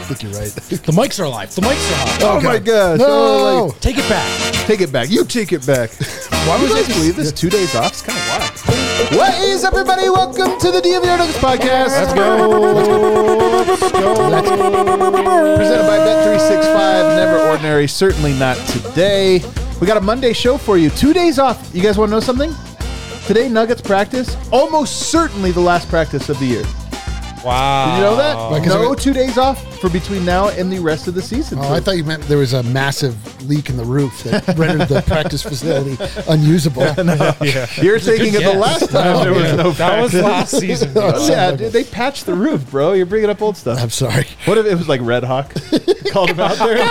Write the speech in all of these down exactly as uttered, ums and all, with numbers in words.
think you're right. The mics are live. The mics are hot. Oh, Okay. my gosh. No. Oh, like, Take it back. take it back. You take it back. Why would you guys believe this? Two days off? It's kind of wild. What is up, everybody? Welcome to the D M V R Nuggets podcast. Let's go. Let's go. Let's go. Let's go. Presented by Bet three sixty-five. Never ordinary. Certainly not today. We got a Monday show for you. Two days off. You guys want to know something? Today, Nuggets practice. Almost certainly the last practice of the year. Wow. Did you know that? Like, no it- two days off for between now and the rest of the season. Oh, I thought you meant there was a massive leak in the roof that rendered the practice facility unusable. Yeah. You're thinking of the guess. last time there was no That was practice. last season. Oh, yeah, dude, they patched the roof, bro. You're bringing up old stuff. I'm sorry. What if it was like Red Hawk? Called him out there.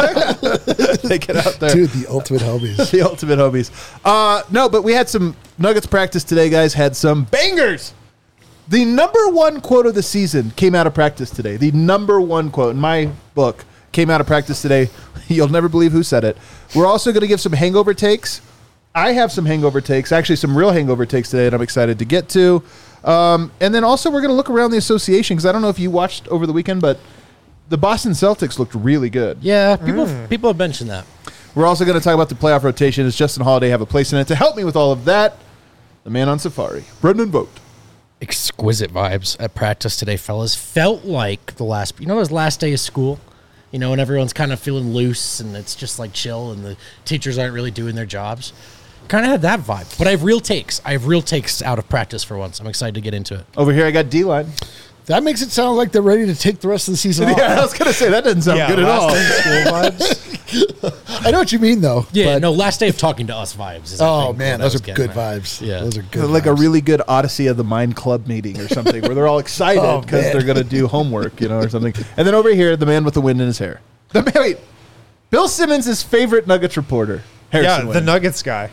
They get out there. Dude, the ultimate homies. The ultimate homies. Uh, no, but we had some Nuggets practice today, guys. Had some bangers. The number one quote of the season came out of practice today. The number one quote in my book came out of practice today. You'll never believe who said it. We're also going to give some hangover takes. I have some hangover takes, actually some real hangover takes today that I'm excited to get to. Um, and then also we're going to look around the association because I don't know if you watched over the weekend, but the Boston Celtics looked really good. Yeah, people people have mentioned that. We're also going to talk about the playoff rotation. Does Justin Holiday have a place in it? To help me with all of that, the man on Safari, Brendan Vogt. Exquisite vibes at practice today, fellas. Felt like the last, you know, those last day of school, you know, and everyone's kind of feeling loose and it's just like chill and the teachers aren't really doing their jobs. Kind of had that vibe. But I have real takes. I have real takes out of practice for once. I'm excited to get into it. Over here, I got D-line. That makes it sound like they're ready to take the rest of the season off. Yeah, I was going to say, that doesn't sound Yeah, good at all. last day of school vibes. I know what you mean, though. Yeah, but- no, last day of talking to us vibes. Is, I Oh, think, man, what I those was are getting good at. vibes. Yeah. Those are good Like a vibes. really good Odyssey of the Mind Club meeting or something where they're all excited Oh, because man. they're going to do homework, you know, or something. And then over here, the man with the wind in his hair. The man, wait, Bill Simmons' favorite Nuggets reporter, Harrison Yeah, the Wind. Nuggets guy.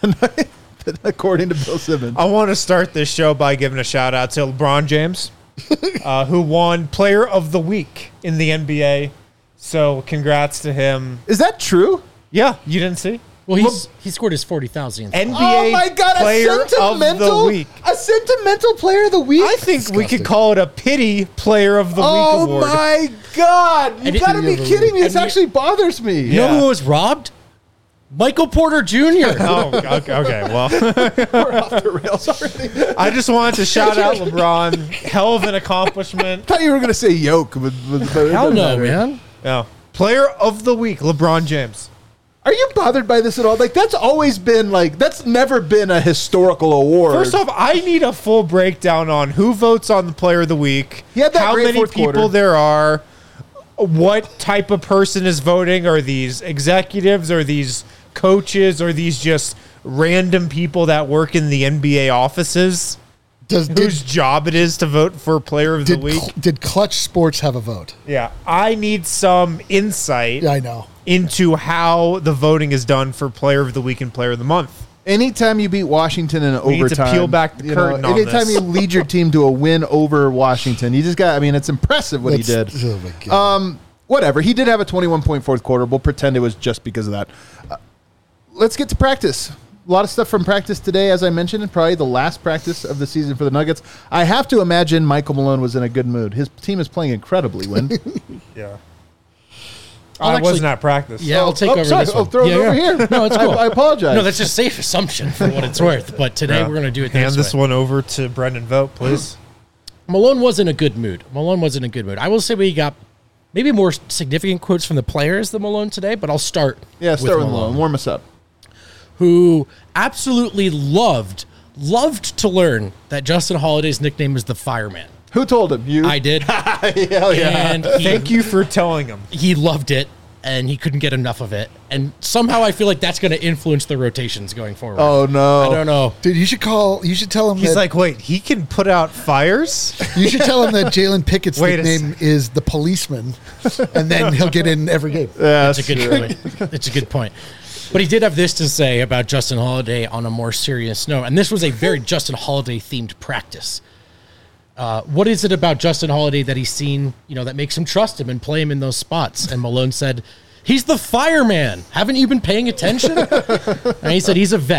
According to Bill Simmons. I want to start this show by giving a shout out to LeBron James, uh, who won Player of the Week in the N B A. So congrats to him. Is that true? Yeah, you didn't see? Well, he's, he scored his forty thousand. N B A Oh my God, Player a of sentimental, the Week. a sentimental player of the week? I think we Disgusting. could call it a pity Player of the Oh Week award. my God. You And it- got to be kidding me. This And you- actually bothers me. You know Yeah. who was robbed? Michael Porter Junior Oh, okay, okay. Well, We're off the rails already. I just wanted to shout out LeBron. Hell of an accomplishment. I thought you were going to say yoke. But, but, but it Hell doesn't no, matter. man. Yeah. Player of the Week, LeBron James. Are you bothered by this at all? Like, that's always been, like, that's never been a historical award. First off, I need a full breakdown on who votes on the Player of the Week, He had that how great many fourth people quarter. there are, what type of person is voting. Are these executives? Are these coaches? Are these just random people that work in the N B A offices Does, whose did, job it is to vote for Player of did, the Week? Cl- did Clutch Sports have a vote? Yeah, I need some insight Yeah, I know. into how the voting is done for Player of the Week and Player of the Month. anytime you beat Washington in We need to overtime, peel back the you curtain on anytime this. you lead your team to a win over Washington, you just got, I mean, it's impressive what he did. That's- Oh, my God. Um, whatever. He did have a twenty-one point fourth quarter. We'll pretend it was just because of that. Uh, let's get to practice. A lot of stuff from practice today, as I mentioned, and probably the last practice of the season for the Nuggets. I have to imagine Michael Malone was in a good mood. His team is playing incredibly, Win. Yeah. I'll I actually- wasn't at practice. Yeah, I'll take oh, over sorry. this Oh, one. throw it yeah, over yeah. here. No, it's cool. I, I apologize. No, that's a safe assumption for what it's worth. But today Yeah. we're going to do it Hand this, this way. one over to Brendan Vogt, please. Malone was in a good mood. Malone was in a good mood. I will say we got maybe more significant quotes from the players than Malone today, but I'll start yeah, start with Malone. Warm us up. who absolutely loved, loved to learn that Justin Holiday's nickname is the Fireman. Who told him? You? I did. Hell yeah. And he, Thank you for telling him. he loved it, and he couldn't get enough of it. And somehow I feel like that's going to influence the rotations going forward. Oh, no. I don't know. Dude, you should call. You should tell him. He's that, like, wait, he can put out fires? you should tell him that Jalen Pickett's Wait a nickname is the policeman, and then he'll get in every game. Yeah, That's a good point. That's a good point. But he did have this to say about Justin Holiday on a more serious note. And this was a very Justin Holiday themed practice. Uh, what is it about Justin Holiday that he's seen, you know, that makes him trust him and play him in those spots? And Malone said, he's the fireman. Haven't you been paying attention? And he said, he's a vet.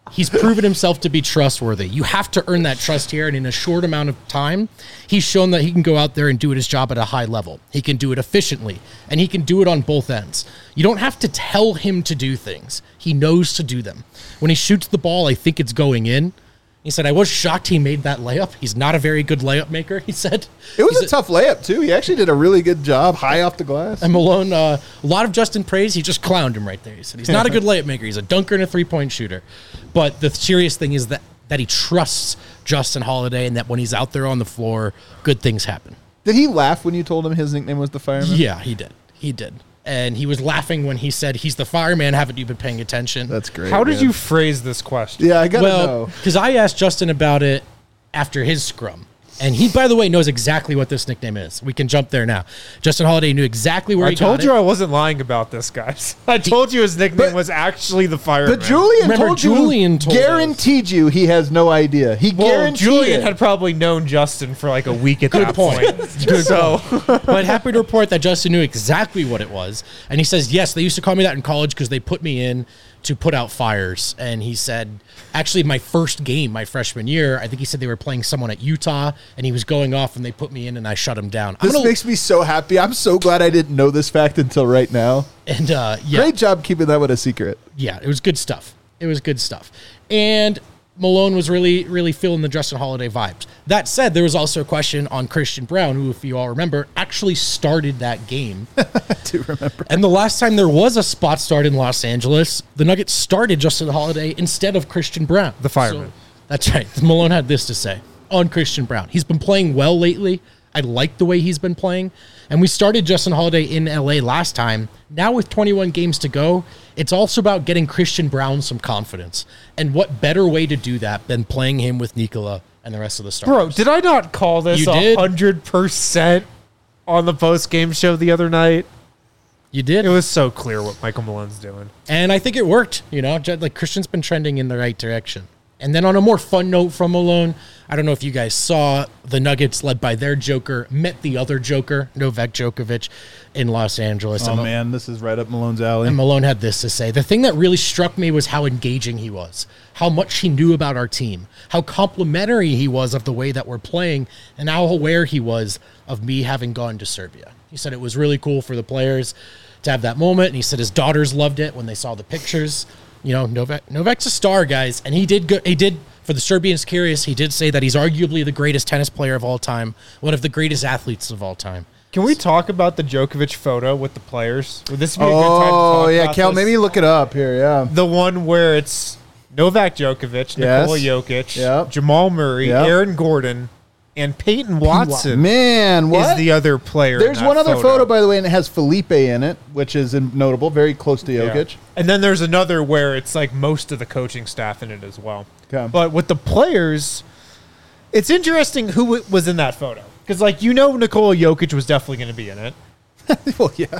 He's proven himself to be trustworthy. You have to earn that trust here, and in a short amount of time, he's shown that he can go out there and do his job at a high level. He can do it efficiently, and he can do it on both ends. You don't have to tell him to do things. He knows to do them. When he shoots the ball, I think it's going in. He said, I was shocked he made that layup. He's not a very good layup maker, he said. It was He's a tough layup, too. He actually did a really good job, high off the glass. And Malone, uh, a lot of Justin praise. He just clowned him right there. He said he's not a good layup maker. He's a dunker and a three-point shooter. But the serious thing is that, that he trusts Justin Holiday, and that when he's out there on the floor, good things happen. Did he laugh when you told him his nickname was the Fireman? Yeah, he did. He did. And he was laughing when he said, he's the fireman. Haven't you been paying attention? That's great. How did man. you phrase this question? Yeah, I got to Well, know. because I asked Justin about it after his scrum. And he, by the way, knows exactly what this nickname is. We can jump there now. Justin Holiday knew exactly where I he told got you it. I wasn't lying about this, guys. I told you his nickname But- was actually the Fireman. But Julian Remember, told Julian you, told guaranteed you he has no idea. He well, guaranteed Julian it. had probably known Justin for like a week at Good that point. point. Good so But happy to report that Justin knew exactly what it was. And he says, yes, they used to call me that in college because they put me in to put out fires. And he said, actually, my first game, my freshman year, I think he said they were playing someone at Utah, and he was going off, and they put me in, and I shut him down. I'm This gonna, makes me so happy. I'm so glad I didn't know this fact until right now. and uh, yeah, Great job keeping that one a secret. yeah, it was good stuff. It was good stuff. And Malone was really, really feeling the Justin Holiday vibes. That said, there was also a question on Christian Brown, who, if you all remember, actually started that game. I do remember. And the last time there was a spot start in Los Angeles, the Nuggets started Justin Holiday instead of Christian Brown. The fireman. So, that's right. Malone had this to say on Christian Brown. He's been playing well lately. I like the way he's been playing. And we started Justin Holiday in L A last time. Now with twenty-one games to go, it's also about getting Christian Brown some confidence. And what better way to do that than playing him with Nikola and the rest of the starters? Bro, did I not call this You did? one hundred percent on the post-game show the other night? You did. It was so clear what Michael Malone's doing. And I think it worked, you know, ju- like Christian's been trending in the right direction. And then on a more fun note from Malone, I don't know if you guys saw the Nuggets led by their Joker met the other Joker, Novak Djokovic, in Los Angeles. Oh, and, man, this is right up Malone's alley. and Malone had this to say. The thing that really struck me was how engaging he was, how much he knew about our team, how complimentary he was of the way that we're playing, and how aware he was of me having gone to Serbia. He said it was really cool for the players to have that moment, and he said his daughters loved it when they saw the pictures. You know, Novak Novak's a star, guys, and he did go, he did for the Serbians curious. He did say that he's arguably the greatest tennis player of all time, one of the greatest athletes of all time. Can we talk about the Djokovic photo with the players? Would this be a good time to talk Oh, yeah, about Kel, this? maybe look it up here, yeah. The one where it's Novak Djokovic, Yes. Nikola Jokic, Yep. Jamal Murray, Yep. Aaron Gordon, and Peyton Watson Man, what? is the other player. in There's that one other photo. by the way, and it has Felipe in it, which is in- notable, very close to Yeah. Jokic. And then there's another where it's like most of the coaching staff in it as well. Okay. But with the players, it's interesting who w- was in that photo. Because, like, you know, Nikola Jokic was definitely going to be in it. Well, yeah.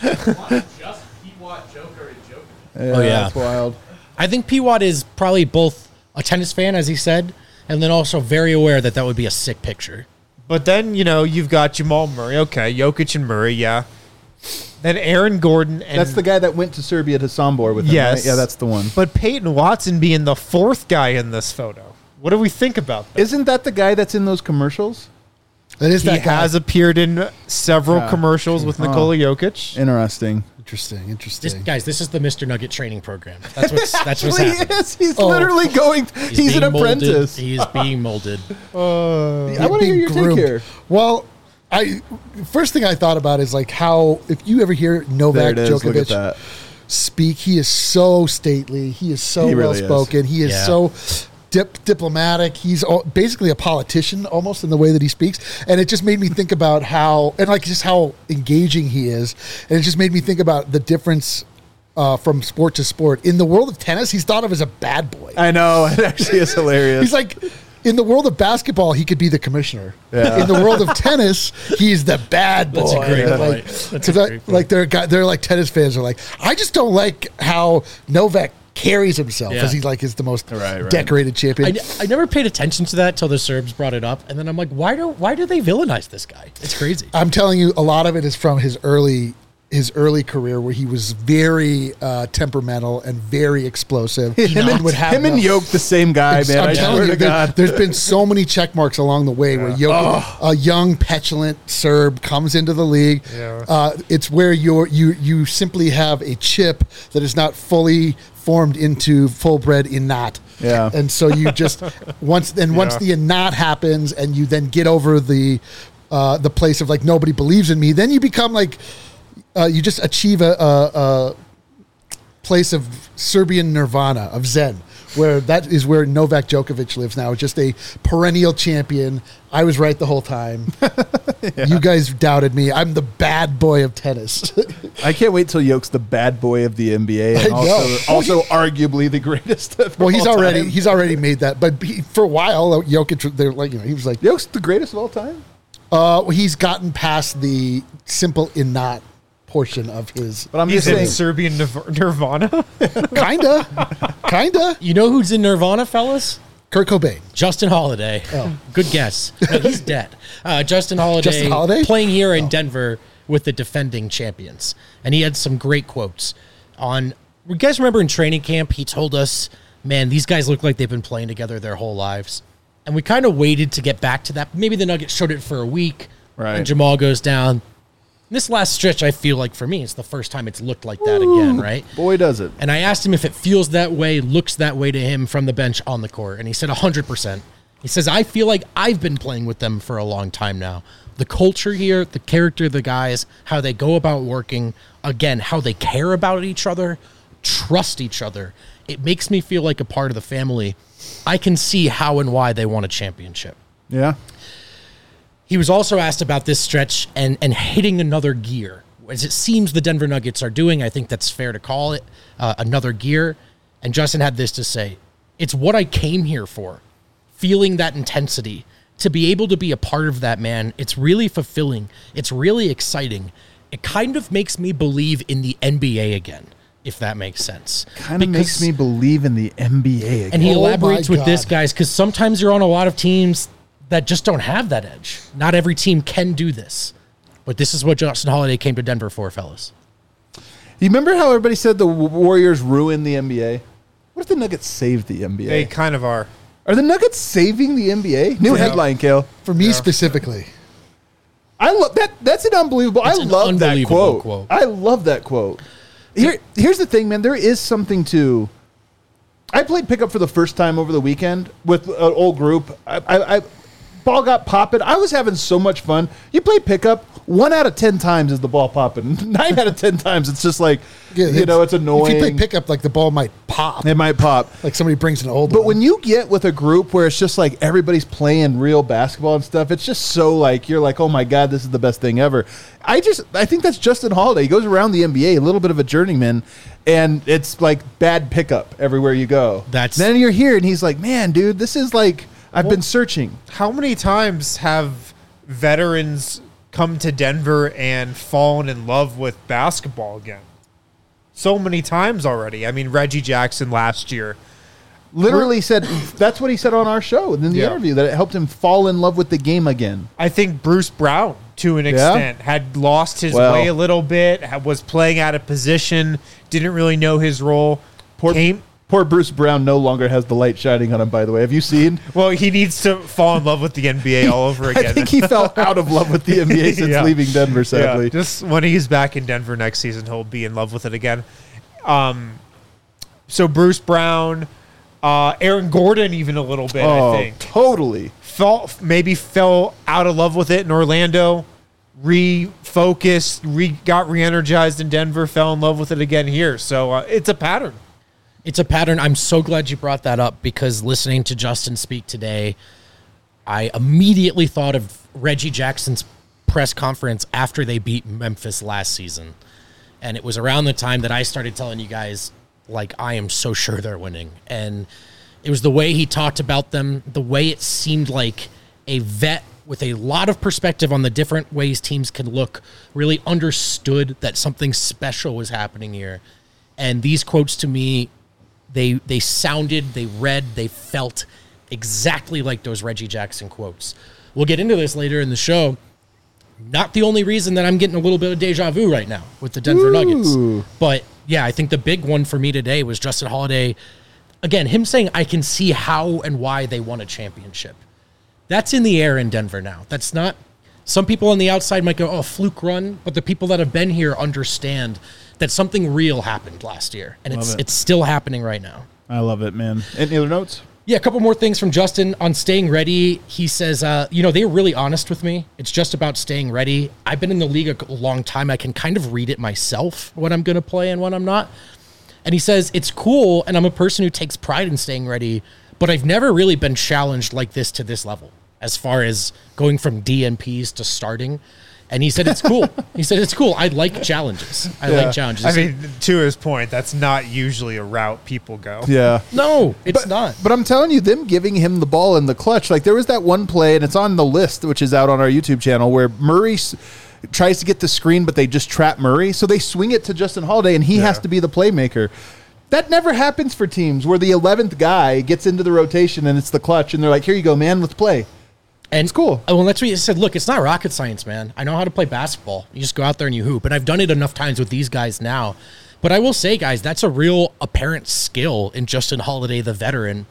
Oh, Yeah, yeah. that's wild. I think P. Watt is probably both a tennis fan, as he said, and then also very aware that that would be a sick picture. But then, you know, you've got Jamal Murray. Okay, Jokic and Murray, yeah. Then Aaron Gordon. And That's the guy that went to Serbia to Sombor with him, Yes. right? Yeah, that's the one. But Peyton Watson being the fourth guy in this photo. What do we think about that? Isn't that the guy that's in those commercials? That is He that guy. has appeared in several Yeah. commercials with Huh. Nikola Jokic. Interesting. Interesting, This, interesting. guys, this is the Mister Nugget training program. That's what's that's what's He happening. is. He's Oh. literally going. He's, an being molded. apprentice. He is being molded. I want to hear Being your take groomed. here. Well, I first thing I thought about is like how if you ever hear There Novak it is. Look at Djokovic that. speak, he is so stately. He is so He well really is. spoken. He is Yeah. so dip, diplomatic. He's all, basically a politician almost in the way that he speaks. And it just made me think about how and like just how engaging he is. And it just made me think about the difference uh, from sport to sport. In the world of tennis, he's thought of as a bad boy. I know. It actually is hilarious. He's like, in the world of basketball, he could be the commissioner. Yeah. In the world of tennis, he's the bad boy. That's a great And, point. like, That's a 'cause I- great point. like they're guy- they're like tennis fans are like, I just don't like how Novak carries himself Yeah. because he's like is the most Right, right. decorated I, champion. I never paid attention to that till the Serbs brought it up, and then I'm like, why do why do they villainize this guy? It's crazy. I'm telling you, a lot of it is from his early his early career where he was very uh, temperamental and very explosive. Him, and, would have him and no- Yoke, the same guy, man. I'm I telling swear you, to there, God. there's been so many check marks along the way where Jokic, a young, petulant Serb, comes into the league. Yeah. Uh, it's where you're, you you simply have a chip that is not fully formed into full-bred innat. Yeah. And so you just once then once Yeah. the innat happens and you then get over the uh, the place of like nobody believes in me, then you become like uh, you just achieve a, a, a place of Serbian nirvana, of Zen, where that is where Novak Djokovic lives now, just a perennial champion. I was right the whole time. yeah. You guys doubted me. I'm the bad boy of tennis. I can't wait till Yoke's the bad boy of the N B A and I also, know. also arguably the greatest of well, he's all already time. he's already made that, but he, for a while, Jokic, they're like you know he was like, Yoke's the greatest of all time? uh, he's gotten past the simple innat portion of his. But I'm He's just in saying. Serbian Nir- Nirvana. Kinda, kinda. You know who's in Nirvana, fellas? Kurt Cobain. Justin Holiday. Oh. Good guess. No, he's dead. Uh, Justin Holiday, Justin Holiday? playing here in Oh. Denver with the defending champions. And he had some great quotes on. You guys remember in training camp, he told us, man, these guys look like they've been playing together their whole lives. And we kind of waited to get back to that. Maybe the Nuggets showed it for a week. Right. And Jamal goes down. This last stretch, I feel like for me, it's the first time it's looked like that again, right? Boy, does it. And I asked him if it feels that way, looks that way to him from the bench on the court. And he said one hundred percent. He says, I feel like I've been playing with them for a long time now. The culture here, the character of the guys, how they go about working, again, how they care about each other, trust each other. It makes me feel like a part of the family. I can see how and why they won a championship. Yeah. He was also asked about this stretch and, and hitting another gear, as it seems the Denver Nuggets are doing. I think that's fair to call it uh, another gear. And Justin had this to say, it's what I came here for, feeling that intensity, to be able to be a part of that, man. It's really fulfilling. It's really exciting. It kind of makes me believe in the N B A again, if that makes sense. Kind of makes Because- me believe in the N B A again. And he Oh my elaborates with this, God. guys, because sometimes you're on a lot of teams that just don't have that edge. Not every team can do this. But this is what Justin Holiday came to Denver for, fellas. You remember how everybody said the Warriors ruined the N B A? What if the Nuggets saved the N B A? They kind of are. Are the Nuggets saving the N B A? New Yeah. headline, Kale. For me specifically, I love that. That's an unbelievable. It's I an love that unbelievable quote. quote. I love that quote. Here, here's the thing, man. There is something to. I played pickup for the first time over the weekend with an old group. I, I, I ball got popping. I was having so much fun. You play pickup. One out of ten times is the ball popping. Nine out of ten times it's just like yeah, you know it's annoying. If you play pickup, like the ball might pop, It might pop. like somebody brings an old But one. when you get with a group where it's just like everybody's playing real basketball and stuff, it's just so like you're like, oh my god, this is the best thing ever. I just I think that's Justin Holiday. He goes around the N B A, a little bit of a journeyman, and it's like bad pickup everywhere you go. That's- then you're here, and he's like, man, dude, this is like I've been searching. How many times have veterans come to Denver and fallen in love with basketball again? So many times already. I mean, Reggie Jackson last year. Literally said that's what he said on our show in the Yeah. interview that it helped him fall in love with the game again. I think Bruce Brown, to an Yeah? extent, had lost his Well- way a little bit, ha- was playing out of position, didn't really know his role. Poor, Came, poor Bruce Brown no longer has the light shining on him. By the way, have you seen? well, he needs to fall in love with the N B A all over again. I think he fell out of love with the N B A since Yeah. leaving Denver. Sadly, Yeah, just when he's back in Denver next season, he'll be in love with it again. Um, so Bruce Brown, uh, Aaron Gordon, even a little bit, oh, I think, totally. fell maybe fell out of love with it in Orlando, refocused, re got re-energized in Denver, fell in love with it again here. So uh, it's a pattern. It's a pattern. I'm so glad you brought that up because listening to Justin speak today, I immediately thought of Reggie Jackson's press conference after they beat Memphis last season. And it was around the time that I started telling you guys, like, I am so sure they're winning. And it was the way he talked about them, the way it seemed like a vet with a lot of perspective on the different ways teams can look, really understood that something special was happening here. And these quotes to me, they they sounded, they read, they felt exactly like those Reggie Jackson quotes. We'll get into this later in the show, not the only reason that I'm getting a little bit of deja vu right now with the Denver Ooh. Nuggets. But yeah, I think the big one for me today was Justin Holiday. Again, him saying, I can see how and why they won a championship. That's in the air in Denver now. That's not, some people on the outside might go, oh, fluke run. But the people that have been here understand that something real happened last year. And it's it. it's still happening right now. I love it, man. Any other notes? Yeah, a couple more things from Justin on staying ready. He says, uh, you know, they were really honest with me. It's just about staying ready. I've been in the league a long time. I can kind of read it myself, what I'm going to play and what I'm not. And he says, it's cool, and I'm a person who takes pride in staying ready, but I've never really been challenged like this to this level as far as going from D N Ps to starting. And he said, it's cool. He said, it's cool. I like challenges. I Yeah. like challenges. I mean, to his point, that's not usually a route people go. Yeah. no, it's but, not. But I'm telling you, them giving him the ball in the clutch, like there was that one play, and it's on the list, which is out on our YouTube channel, where Murray s- tries to get the screen, but they just trap Murray. So they swing it to Justin Holiday, and he Yeah. has to be the playmaker. That never happens for teams where the eleventh guy gets into the rotation and it's the clutch, and they're like, here you go, man, let's play. And It's cool. Oh, well, that's what he said. Look, it's not rocket science, man. I know how to play basketball. You just go out there and you hoop. And I've done it enough times with these guys now. But I will say, guys, that's a real apparent skill in Justin Holiday, the veteran,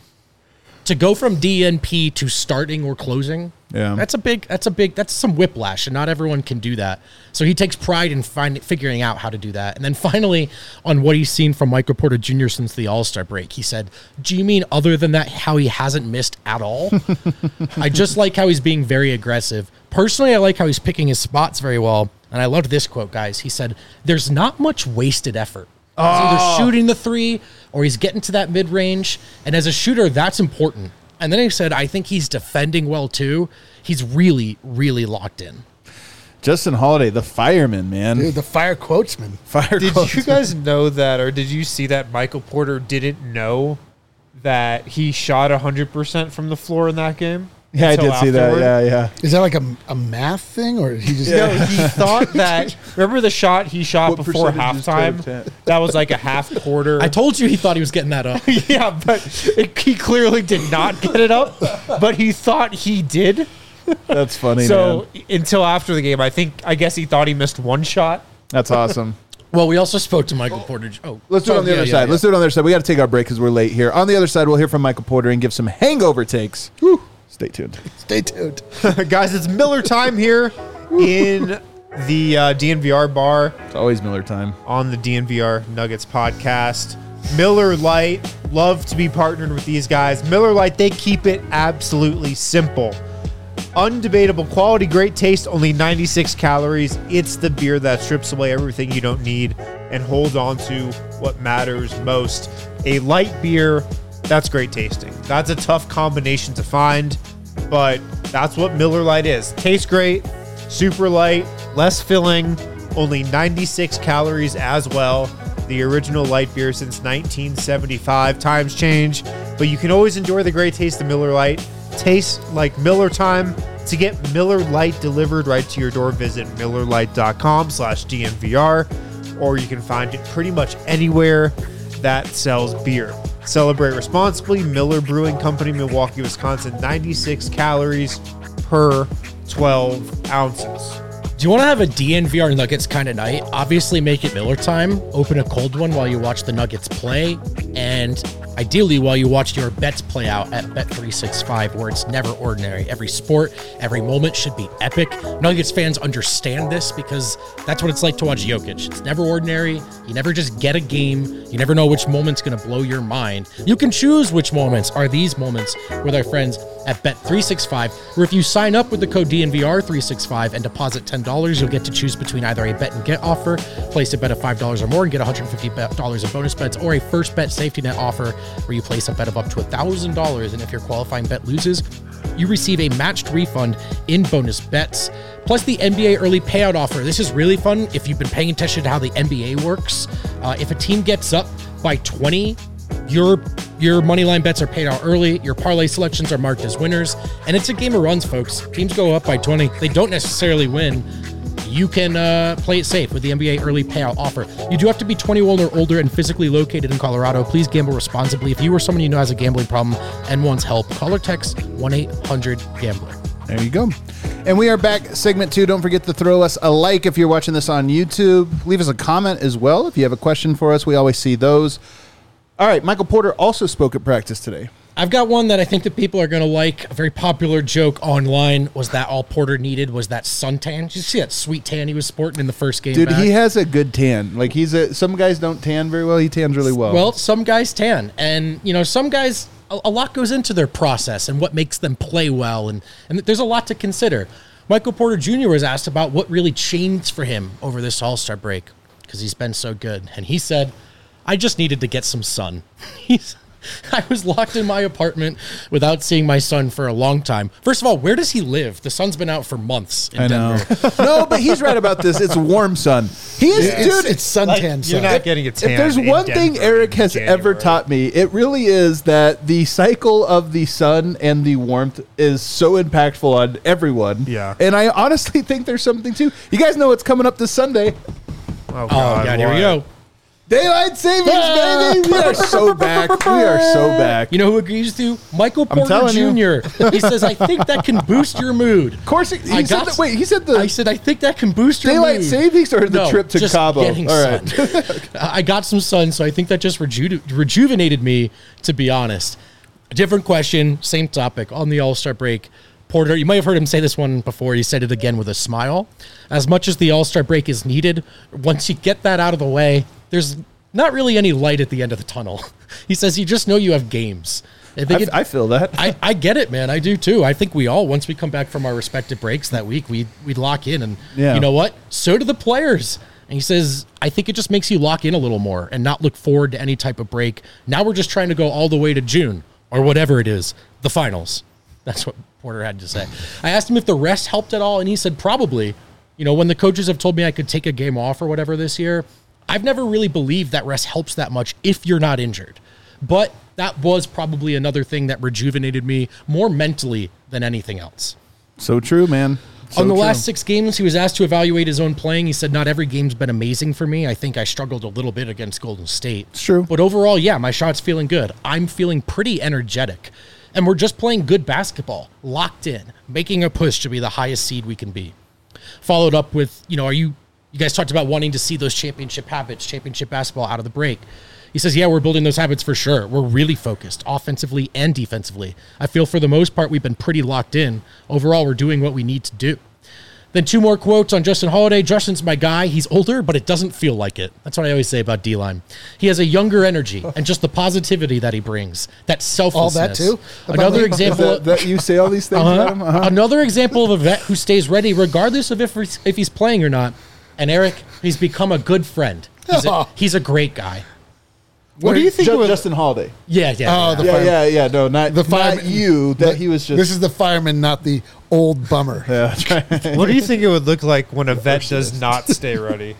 to go from D N P to starting or closing. Yeah. That's a big, that's a big, that's some whiplash, and not everyone can do that. So he takes pride in find, figuring out how to do that. And then finally, on what he's seen from Michael Porter Junior since the All-Star break, he said, do you mean other than that, how he hasn't missed at all? I just like how he's being very aggressive. Personally, I like how he's picking his spots very well. And I loved this quote, guys. He said, there's not much wasted effort. He's either shooting the three or he's getting to that mid-range. And as a shooter, that's important. And then he said, I think he's defending well, too. He's really, really locked in. Justin Holiday, the fireman, man. Dude, the fire quotesman. Fire Did quotes. you guys know that, or did you see that Michael Porter didn't know that he shot one hundred percent from the floor in that game? Yeah, I until did see that. afterward? Yeah, yeah. Is that like a, a math thing, or he just? No, he thought that. Remember the shot he shot What before percentage is halftime? ten? That was like a half quarter. I told you he thought he was getting that up. yeah, but it, he clearly did not get it up, but he thought he did. That's funny, So man. until after the game, I think I guess he thought he missed one shot. That's awesome. Well, we also spoke to Michael Porter. Oh, Let's do it oh, on the yeah, other yeah, side. yeah. Let's do it on the other side. We got to take our break because we're late here. On the other side, we'll hear from Michael Porter and give some hangover takes. Stay tuned. Stay tuned. Guys, it's Miller time here in the uh, D N V R bar It's always Miller time. on the D N V R Nuggets podcast. Miller Lite, love to be partnered with these guys. Miller Lite, they keep it absolutely simple. Undebatable quality, great taste, only ninety-six calories. It's the beer that strips away everything you don't need and holds on to what matters most. A light beer that's great tasting. That's a tough combination to find, but that's what Miller Lite is. Tastes great, super light, less filling, only ninety-six calories as well. The original light beer since nineteen seventy-five. Times change, but you can always enjoy the great taste of Miller Lite. Tastes like Miller time. To get Miller Lite delivered right to your door, visit millerlite.com slash DNVR, or you can find it pretty much anywhere that sells beer. Celebrate responsibly. Miller Brewing Company, Milwaukee, Wisconsin. ninety-six calories per twelve ounces. Do you want to have a D N V R Nuggets kind of night? Obviously, make it Miller time. Open a cold one while you watch the Nuggets play, and ideally while you watch your bets play out at Bet three sixty-five, where it's never ordinary. Every sport, every moment should be epic. Nuggets fans understand this because that's what it's like to watch Jokic. It's never ordinary. You never just get a game. You never know which moment's going to blow your mind. You can choose which moments are these moments with our friends at Bet three sixty-five, where if you sign up with the code D N V R three sixty-five and deposit ten dollars, you'll get to choose between either a bet and get offer, place a bet of five dollars or more and get one hundred fifty dollars in bonus bets, or a first bet safety net offer where you place a bet of up to one thousand dollars, and if your qualifying bet loses, you receive a matched refund in bonus bets. Plus the N B A early payout offer. This is really fun if you've been paying attention to how the N B A works. Uh, if a team gets up by twenty, your your money line bets are paid out early. Your parlay selections are marked as winners. And it's a game of runs, folks. Teams go up by twenty. They don't necessarily win. You can uh, play it safe with the N B A early payout offer. You do have to be twenty-one or older and physically located in Colorado. Please gamble responsibly. If you or someone you know has a gambling problem and wants help, call or text one eight hundred gambler. There you go. And we are back, segment two. Don't forget to throw us a like if you're watching this on YouTube. Leave us a comment as well if you have a question for us. We always see those. All right, Michael Porter also spoke at practice today. I've got one that I think that people are going to like. A very popular joke online was that all Porter needed was that suntan. Did you see that sweet tan he was sporting in the first game Dude, back? he has a good tan. Like, he's a, some guys don't tan very well. He tans really well. Well, some guys tan. And, you know, some guys, a, a lot goes into their process and what makes them play well. And, and there's a lot to consider. Michael Porter Junior was asked about what really changed for him over this All-Star break because he's been so good. And he said, I just needed to get some sun. He's... I was locked in my apartment without seeing my son for a long time. First of all, where does he live? The sun's been out for months in I know. Denver. No, but he's right about this. It's warm sun. He is, It's, dude. it's suntan Like, sun. you're not getting a tan. If there's in one thing Denver Eric in has ever January. taught me, it really is that the cycle of the sun and the warmth is so impactful on everyone. Yeah. And I honestly think there's something too. You guys know what's coming up this Sunday. Oh, Oh, God, God, here we what? go. Daylight savings, baby. We are so back. We are so back. You know who agrees with you? Michael I'm Porter telling you. Junior He says, I think that can boost your mood. Of course, he, he I said got- that, wait, he said the I said, I think that can boost your daylight mood. savings or the No, trip to just Cabo? getting All right. sun. I got some sun, so I think that just reju- rejuvenated me, to be honest. Different question, same topic. On the All-Star break, Porter, you might have heard him say this one before. He said it again with a smile. As much as the All-Star break is needed, once you get that out of the way, there's not really any light at the end of the tunnel. He says you just know you have games. I think I, it, I feel that. I, I get it, man. I do too. I think we all, once we come back from our respective breaks that week, we we'd lock in, and Yeah. you know what? So do the players. And he says, I think it just makes you lock in a little more and not look forward to any type of break. Now we're just trying to go all the way to June or whatever it is, the finals. That's what Porter had to say. I asked him if the rest helped at all, and he said probably. You know, when the coaches have told me I could take a game off or whatever this year, I've never really believed that rest helps that much if you're not injured. But that was probably another thing that rejuvenated me more mentally than anything else. So true, man. So On the true. last six games, he was asked to evaluate his own playing. He said, not every game's been amazing for me. I think I struggled a little bit against Golden State. It's true. But overall, yeah, my shot's feeling good. I'm feeling pretty energetic. And we're just playing good basketball, locked in, making a push to be the highest seed we can be. Followed up with, you know, are you, you guys talked about wanting to see those championship habits, championship basketball out of the break. He says, yeah, we're building those habits for sure. We're really focused offensively and defensively. I feel for the most part, we've been pretty locked in. Overall, we're doing what we need to do. Then two more quotes on Justin Holiday. Justin's my guy. He's older, but it doesn't feel like it. That's what I always say about D-Line. He has a younger energy and just the positivity that he brings, that selflessness. too? Another Is example. that, that you say all these things Uh-huh. about him? Uh-huh. Another example of a vet who stays ready regardless of if he's, if he's playing or not. And Eric, he's become a good friend. He's a, he's a great guy. What do you think Ju- was Justin Holiday? Yeah, yeah. Oh, yeah. the Yeah, fireman. yeah, yeah. No, not The not fireman- you. That the- he was just. This is the fireman, not the old bummer. yeah, that's right. What do you think it would look like when a vet Receptionist. does not stay ready?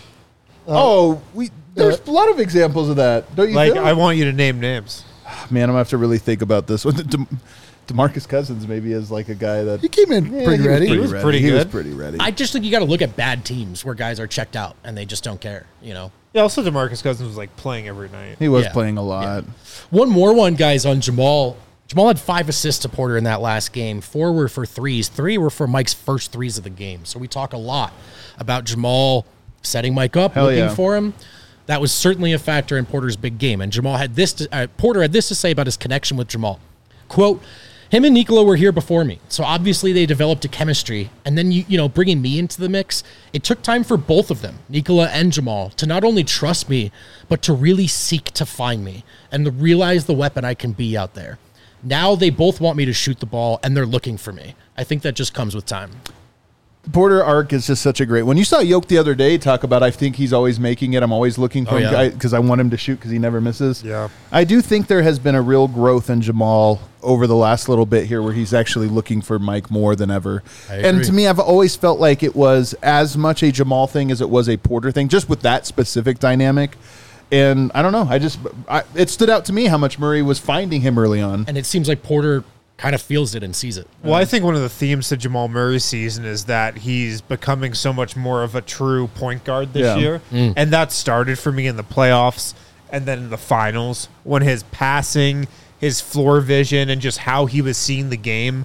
Oh, we. There's a lot of examples of that. Don't you? Like, feel? I want you to name names. Man, I'm gonna have to really think about this one. De- DeMarcus Cousins maybe is like a guy that He came in Yeah, pretty he was ready. Pretty He was ready. pretty He was good. pretty ready. I just think you got to look at bad teams where guys are checked out and they just don't care, you know? Yeah, also DeMarcus Cousins was like playing every night. he was Yeah. playing a lot. One more one, guys, on Jamal. Jamal had five assists to Porter in that last game. Four were for threes. Three were for Mike's first threes of the game. So we talk a lot about Jamal setting Mike up, Hell looking yeah. for him. That was certainly a factor in Porter's big game. And Jamal had this. To, uh, Porter had this to say about his connection with Jamal. Quote, him and Nikola were here before me, so obviously they developed a chemistry. And then, you you know, bringing me into the mix, it took time for both of them, Nikola and Jamal, to not only trust me, but to really seek to find me and to realize the weapon I can be out there. Now they both want me to shoot the ball, and they're looking for me. I think that just comes with time. Porter arc is just such a great one. You saw Yoke the other day talk about, I think he's always making it. I'm always looking for Oh, him yeah. because I want him to shoot because he never misses. Yeah. I do think there has been a real growth in Jamal over the last little bit here where he's actually looking for Mike more than ever. I And agree. to me, I've always felt like it was as much a Jamal thing as it was a Porter thing, just with that specific dynamic. And I don't know. I just, I, it stood out to me how much Murray was finding him early on. And it seems like Porter kind of feels it and sees it. Well, I think one of the themes to Jamal Murray's season is that he's becoming so much more of a true point guard this Yeah. year. And that started for me in the playoffs and then in the finals when his passing, his floor vision, and just how he was seeing the game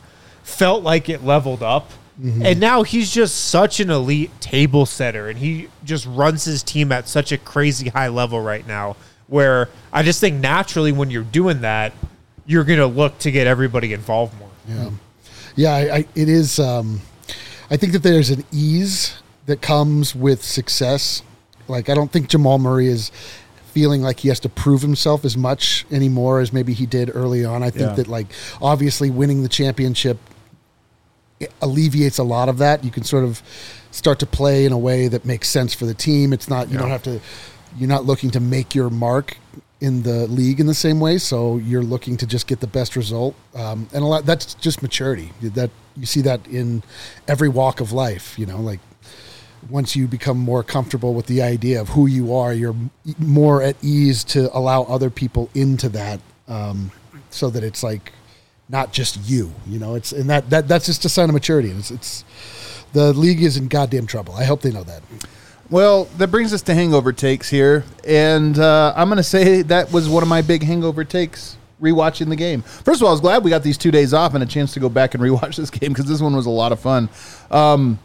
felt like it leveled up. Mm-hmm. And now he's just such an elite table setter, and he just runs his team at such a crazy high level right now, where I just think naturally when you're doing that, you're going to look to get everybody involved more. Yeah. Yeah, I, I, it is. Um, I think that there's an ease that comes with success. Like, I don't think Jamal Murray is feeling like he has to prove himself as much anymore as maybe he did early on. I think yeah. that, like, obviously winning the championship alleviates a lot of that. You can sort of start to play in a way that makes sense for the team. It's not, you yeah. don't have to, you're not looking to make your mark in the league in the same way. So you're looking to just get the best result. Um, and a lot, that's just maturity. That you see that in every walk of life, you know, like once you become more comfortable with the idea of who you are, you're more at ease to allow other people into that. Um, so that it's like, not just you, you know, it's, and that, that, that's just a sign of maturity. It's, it's, the league is in goddamn trouble. I hope they know that. Well, that brings us to hangover takes here. And uh, I'm going to say that was one of my big hangover takes, rewatching the game. First of all, I was glad we got these two days off and a chance to go back and rewatch this game, because this one was a lot of fun. Um,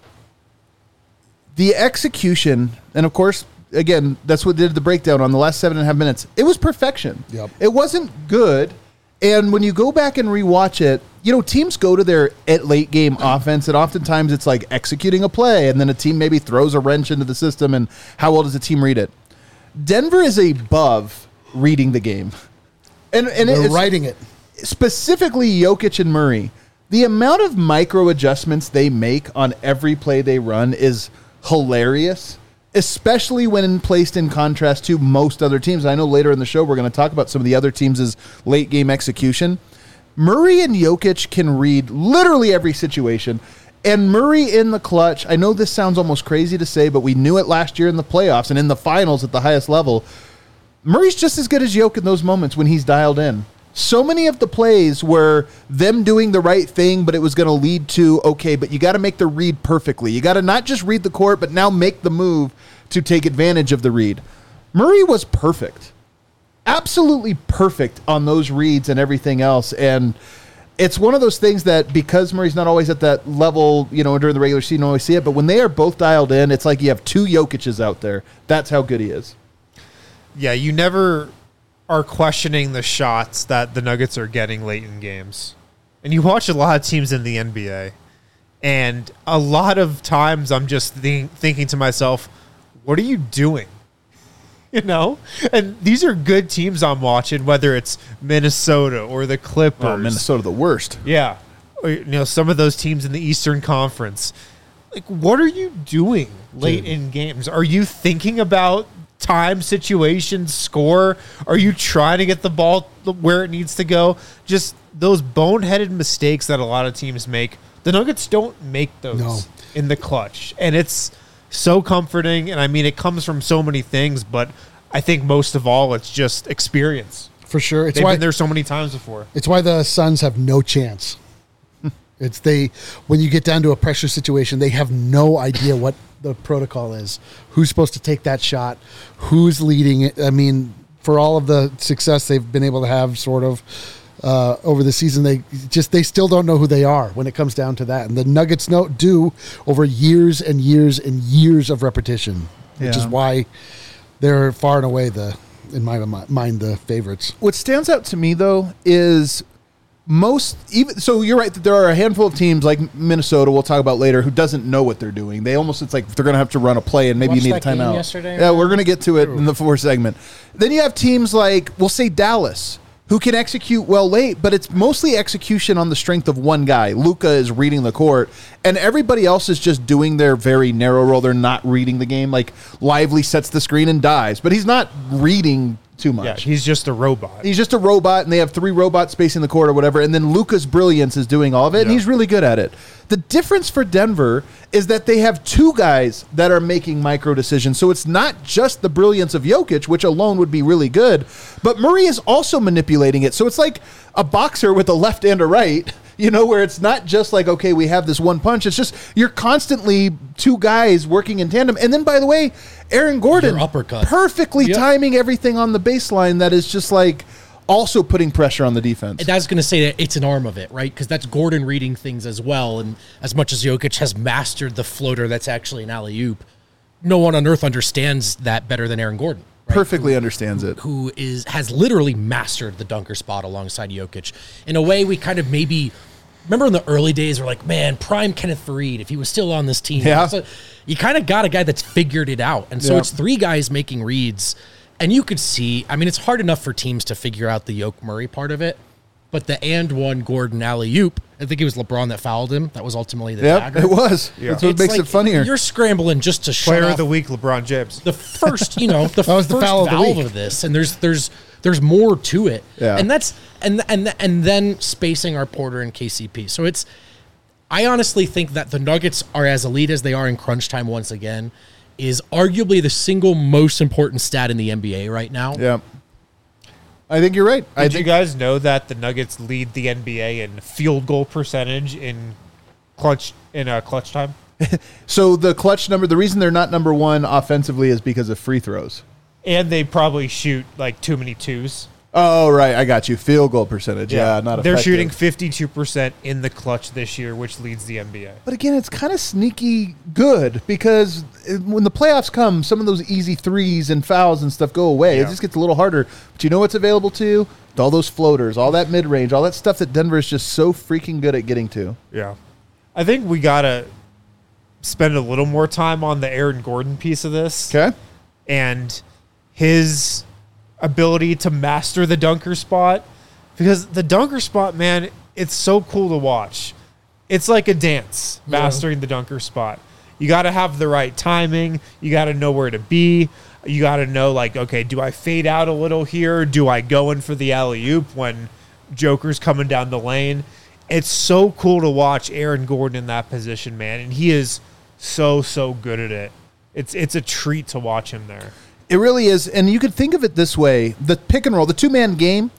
the execution, and of course, again, that's what did the breakdown on the last seven and a half minutes. It was perfection. Yep. It wasn't good. And when you go back and rewatch it, you know, teams go to their at late game offense, and oftentimes it's like executing a play, and then a team maybe throws a wrench into the system, and how well does the team read it? Denver is above reading the game. And, and They're it's writing it. Specifically Jokic and Murray. The amount of micro adjustments they make on every play they run is hilarious, especially when placed in contrast to most other teams. I know later in the show we're going to talk about some of the other teams' late game execution. Murray and Jokic can read literally every situation. And Murray in the clutch, I know this sounds almost crazy to say, but we knew it last year in the playoffs and in the finals at the highest level. Murray's just as good as Jokic in those moments when he's dialed in. So many of the plays were them doing the right thing, but it was going to lead to, okay, but you got to make the read perfectly. You got to not just read the court, but now make the move to take advantage of the read. Murray was perfect. Absolutely perfect on those reads and everything else. And it's one of those things that because Murray's not always at that level, you know, during the regular season, you don't always see it, but when they are both dialed in, it's like you have two Jokic's out there. That's how good he is. Yeah, you never are questioning the shots that the Nuggets are getting late in games. And you watch a lot of teams in the N B A, and a lot of times I'm just think, thinking to myself, what are you doing? You know? And these are good teams I'm watching, whether it's Minnesota or the Clippers. Oh, Minnesota, the worst. Yeah. Or, you know, some of those teams in the Eastern Conference. Like, what are you doing late Dude. in games? Are you thinking about time, situations, score? Are you trying to get the ball where it needs to go? Just those boneheaded mistakes that a lot of teams make. The Nuggets don't make those no. in the clutch. And it's so comforting. And I mean, it comes from so many things, but I think most of all, it's just experience. For sure. It's They've why been there so many times before. It's why the Suns have no chance. It's they, when you get down to a pressure situation, they have no idea what the protocol is, who's supposed to take that shot, who's leading it. I mean, for all of the success they've been able to have sort of uh, over the season, they just, they still don't know who they are when it comes down to that. And the Nuggets know, do over years and years and years of repetition, which Yeah. is why they're far and away the, in my mind, the favorites. What stands out to me, though, is most even so you're right that there are a handful of teams like Minnesota we'll talk about later who doesn't know what they're doing. They almost, it's like they're going to have to run a play and maybe Watched you need a that game timeout. yesterday, yeah, man? we're going to get to it in the fourth segment. Then you have teams like, we'll say Dallas, who can execute well late, but it's mostly execution on the strength of one guy. Luka is reading the court, and everybody else is just doing their very narrow role. They're not reading the game. Like Lively sets the screen and dives, but he's not reading too much. Yeah, he's just a robot. He's just a robot, and they have three robots spacing the court or whatever, and then Luka's brilliance is doing all of it, and Yeah. he's really good at it. The difference for Denver is that they have two guys that are making micro decisions, so it's not just the brilliance of Jokic, which alone would be really good, but Murray is also manipulating it. So it's like a boxer with a left and a right, you know, where it's not just like, okay, we have this one punch. It's just you're constantly two guys working in tandem. And then, by the way, Aaron Gordon Your uppercut. perfectly Yep. timing everything on the baseline that is just like also putting pressure on the defense. And I was going to say that it's an arm of it, right? Because that's Gordon reading things as well. And as much as Jokic has mastered the floater that's actually an alley-oop, no one on earth understands that better than Aaron Gordon. Right? Perfectly who, understands who, it. Who is has literally mastered the dunker spot alongside Jokic. In a way, we kind of maybe remember in the early days, we're like, man, prime Kenneth Faried, if he was still on this team. Yeah. So you kind of got a guy that's figured it out. And so Yeah. it's three guys making reads. And you could see, I mean, it's hard enough for teams to figure out the Yoke Murray part of it. But the and one Gordon alley-oop, I think it was LeBron that fouled him. That was ultimately the Yep, dagger. it was. Yeah. That's what It's makes like it funnier. You're scrambling just to shut Player off of the week, LeBron James. the first, you know, the That was first the foul of the valve week. of this, and there's there's there's more to it, Yeah. and that's and and and then spacing our Porter and K C P. So it's, I honestly think that the Nuggets are as elite as they are in crunch time once again, is arguably the single most important stat in the N B A right now. Yeah. I think you're right. I Did think you guys know that the Nuggets lead the N B A in field goal percentage in clutch in uh, clutch time? so. The clutch number. The reason they're not number one offensively is because of free throws. And they probably shoot like too many twos. Oh, right. I got you. Field goal percentage. Yeah, not They're effective. shooting fifty-two percent in the clutch this year, which leads the N B A. But again, it's kind of sneaky good because it- when the playoffs come, some of those easy threes and fouls and stuff go away. It Yeah. just gets a little harder. But you know what's available to you? All those floaters, all that mid range, all that stuff that Denver is just so freaking good at getting to. Yeah. I think we got to spend a little more time on the Aaron Gordon piece of this. Okay. And his ability to master the dunker spot, because the dunker spot, man, it's so cool to watch. It's like a dance, mastering the dunker spot. You got to have the right timing. You got to know where to be. You got to know, like, okay, do I fade out a little here? Do I go in for the alley-oop when Joker's coming down the lane? It's so cool to watch Aaron Gordon in that position, man, and he is so, so good at it. It's it's a treat to watch him there. It really is. And you could think of it this way. The pick and roll, the two-man game,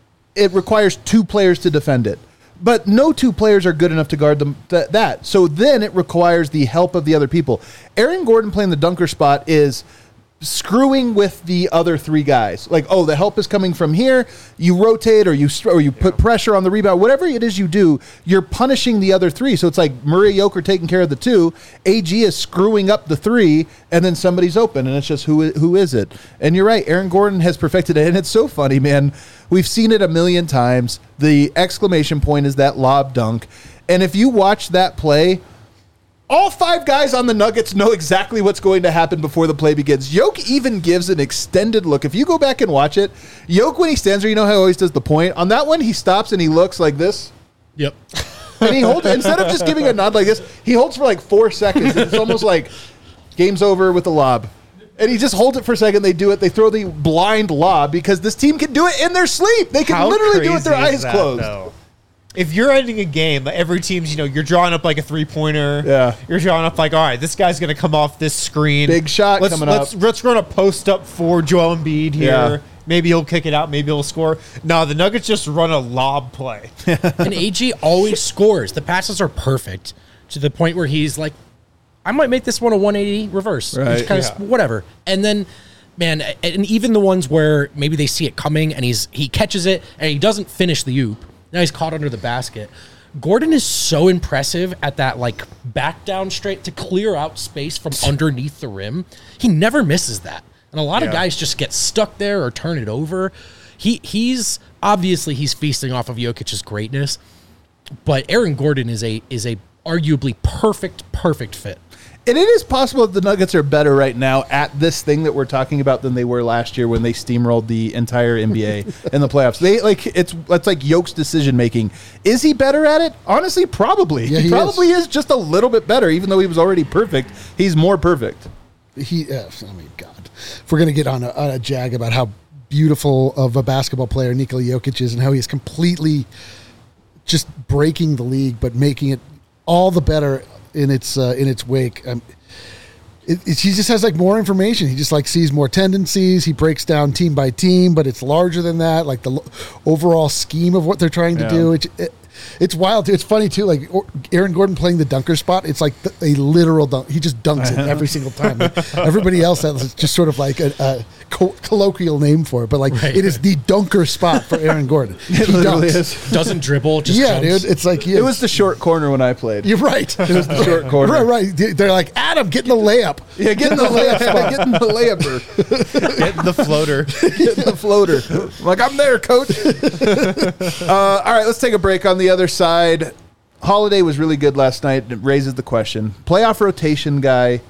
it requires two players to defend it. But no two players are good enough to guard them th- that. So then it requires the help of the other people. Aaron Gordon playing the dunker spot is screwing with the other three guys. Like, oh, the help is coming from here. You rotate or you or you put pressure on the rebound. Whatever it is you do, you're punishing the other three. So it's like Murray Joker taking care of the two. A G is screwing up the three, and then somebody's open, and it's just who i- who is it? And you're right. Aaron Gordon has perfected it, and it's so funny, man. We've seen it a million times. The exclamation point is that lob dunk, and if you watch that play, all five guys on the Nuggets know exactly what's going to happen before the play begins. Yoke even gives an extended look. If you go back and watch it, Yoke, when he stands there, you know how he always does the point? On that one, he stops and he looks like this. Yep. And he holds, instead of just giving a nod like this, he holds for like four seconds. And it's almost like game's over with the lob. And he just holds it for a second. They do it. They throw the blind lob because this team can do it in their sleep. They can How literally do it with their crazy eyes is that, closed. though? If you're ending a game, every team's, you know, you're drawing up like a three-pointer. Yeah. You're drawing up like, all right, this guy's going to come off this screen. Big shot let's, coming let's, up. Let's run a post up for Joel Embiid here. Yeah. Maybe he'll kick it out. Maybe he'll score. No, the Nuggets just run a lob play. And A G always scores. The passes are perfect to the point where he's like, I might make this one a one eighty reverse. Right. Just kind of Yeah. whatever. And then, man, and even the ones where maybe they see it coming and he's he catches it and he doesn't finish the oop. Now he's caught under the basket. Gordon is so impressive at that, like, back down straight to clear out space from underneath the rim. He never misses that. And a lot of Yeah. guys just get stuck there or turn it over. He he's obviously he's feasting off of Jokic's greatness, but Aaron Gordon is a is a arguably perfect perfect fit. And it is possible that the Nuggets are better right now at this thing that we're talking about than they were last year when they steamrolled the entire N B A in the playoffs. They like it's it's like Yoke's decision making. Is he better at it? Honestly, probably. Yeah, he, he probably is. just a little bit better, even though he was already perfect. He's more perfect. He, uh, I mean, God, if we're gonna get on a, on a jag about how beautiful of a basketball player Nikola Jokic is and how he is completely just breaking the league, but making it all the better in its uh, in its wake. Um, it, it, he just has like more information. He just like sees more tendencies. He breaks down team by team, but it's larger than that. Like the lo- overall scheme of what they're trying to Yeah. do. It, it, It's wild. Too. It's funny too. Like or- Aaron Gordon playing the dunker spot. It's like the, a literal dunk. He just dunks it every single time. Like, everybody else has just sort of like a, a co- colloquial name for it, but like Right. it is the dunker spot for Aaron Gordon. It He literally dunks. is. Doesn't dribble, just Yeah, jumps. dude. It's like yeah, It was the short corner when I played. You're right. It was the short corner. Right, right. They're like Adam, get in the layup. Yeah, get in the layup spot. Get in the layuper. Getting the floater. Get in the floater. I'm like, I'm there, coach. uh, all right, let's take a break on the other side. Holiday was really good last night. It raises the question. Playoff rotation guy,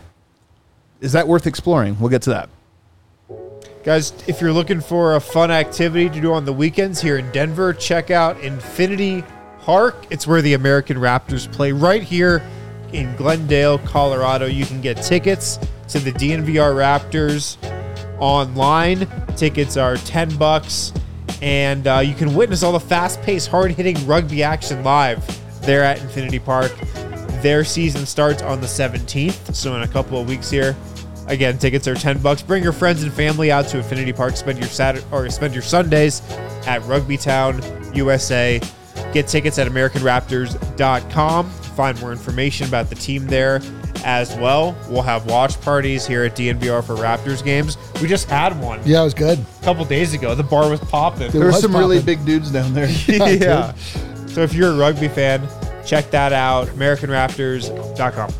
is that worth exploring? We'll get to that. Guys, if you're looking for a fun activity to do on the weekends here in Denver, check out Infinity Park. It's where the American Raptors play right here in Glendale, Colorado. You can get tickets to the D N V R Raptors online. Tickets are ten bucks, and uh, you can witness all the fast-paced, hard-hitting rugby action live there at Infinity Park. Their season starts on the seventeenth, so in a couple of weeks here. Again, tickets are ten bucks. Bring your friends and family out to Infinity Park. Spend your Saturday or spend your Sundays at Rugby Town, U S A. Get tickets at American Raptors dot com. Find more information about the team there as well. We'll have watch parties here at D N V R for Raptors games. We just had one Yeah, it was good. a couple days ago. The bar was popping. There were was some really popping. big dudes down there. Yeah. So if you're a rugby fan, check that out. American Raptors dot com.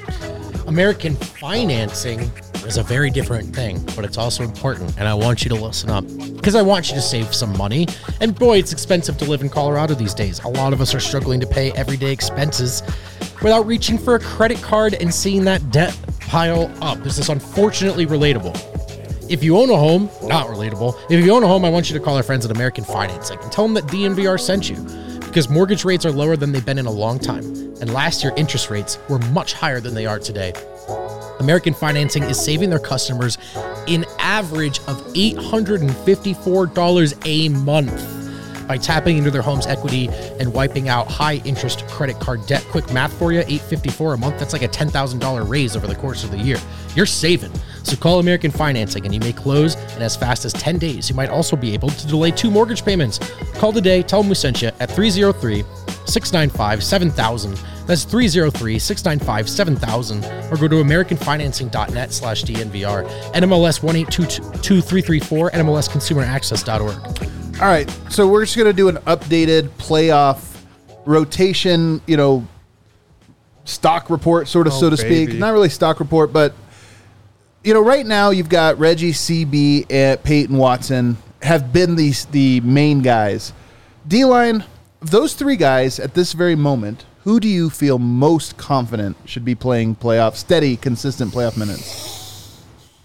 American financing is a very different thing, but it's also important, and I want you to listen up because I want you to save some money. And boy, it's expensive to live in Colorado these days. A lot of us are struggling to pay everyday expenses without reaching for a credit card and seeing that debt pile up. This is unfortunately relatable. If you own a home, not relatable. If you own a home, I want you to call our friends at American Financing and tell them that D N V R sent you, because mortgage rates are lower than they've been in a long time. And last year, interest rates were much higher than they are today. American Financing is saving their customers an average of eight hundred fifty-four dollars a month by tapping into their home's equity and wiping out high interest credit card debt. Quick math for you, eight hundred fifty-four dollars a month, that's like a ten thousand dollars raise over the course of the year. You're saving. So call American Financing and you may close in as fast as ten days. You might also be able to delay two mortgage payments. Call today, tell them we sent you at three oh three, six nine five, seven thousand. That's three oh three, six nine five, seven thousand, or go to american financing dot net slash D N V R, N M L S one eight two two three three four, N M L S consumer access dot org. All right, so we're just going to do an updated playoff rotation, you know, stock report, sort of, Oh, so to baby. speak. Not really stock report, but, you know, right now you've got Reggie, C B, and Peyton Watson have been these the main guys. D-line, of those three guys at this very moment, who do you feel most confident should be playing playoff, steady, consistent playoff minutes?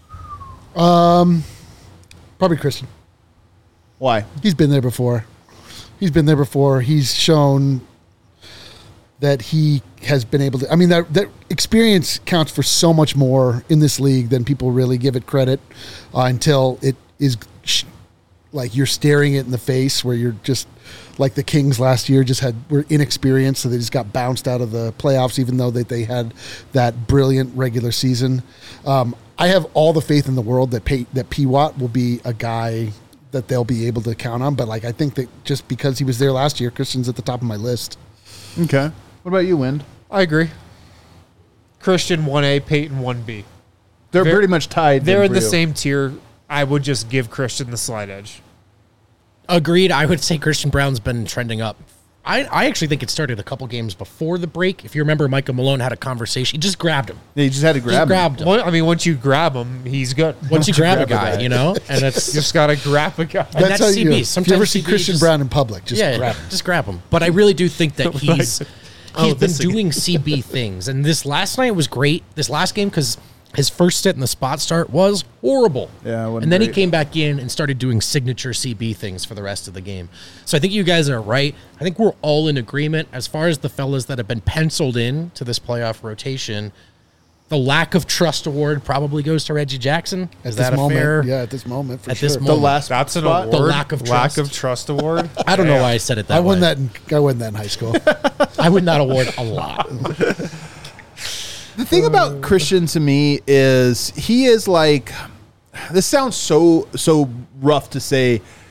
Probably Christian. Why? He's been there before. He's been there before. He's shown that he has been able to. I mean, that that experience counts for so much more in this league than people really give it credit uh, until it is sh- like you're staring it in the face, where you're just like the Kings last year just had were inexperienced, so they just got bounced out of the playoffs, even though that they had that brilliant regular season. Um, I have all the faith in the world that Pay, that P. Watt will be a guy that they'll be able to count on. But like, I think that just because he was there last year, Christian's at the top of my list. Okay. What about you, Wind? I agree. Christian one A, Peyton one B. They're They're- pretty much tied. They're then in for the you. same tier. I would just give Christian the slight edge. Agreed. I would say Christian Brown's been trending up. I, I actually think it started a couple games before the break. If you remember, Michael Malone had a conversation. He just grabbed him. Yeah, you just had to Just grab him. grabbed him. Well, I mean, once you grab him, he's good. Once you grab a grab a guy, guy. you know? And it's You just got to grab a guy. And that's how C B. you. If you Sometimes ever see C B Christian just- Brown in public, just yeah, grab him. just grab him. But I really do think that he's he's Oh, been this again. doing C B things. And this last night was great. This last game, because his first stint in the spot start was horrible. Yeah, it wasn't and then he great. came back in and started doing signature C B things for the rest of the game. So I think you guys are right. I think we're all in agreement as far as the fellas that have been penciled in to this playoff rotation. The lack of trust award probably goes to Reggie Jackson. At Is this that a moment, fair? yeah, at this moment, for At sure. this The moment. last That's an spot? award. The lack of lack trust. of trust award. I don't know why I said it that I way. won that. In, I won that in high school. I would not award a lot. The thing about Christian to me is he is like, this sounds so so rough to say.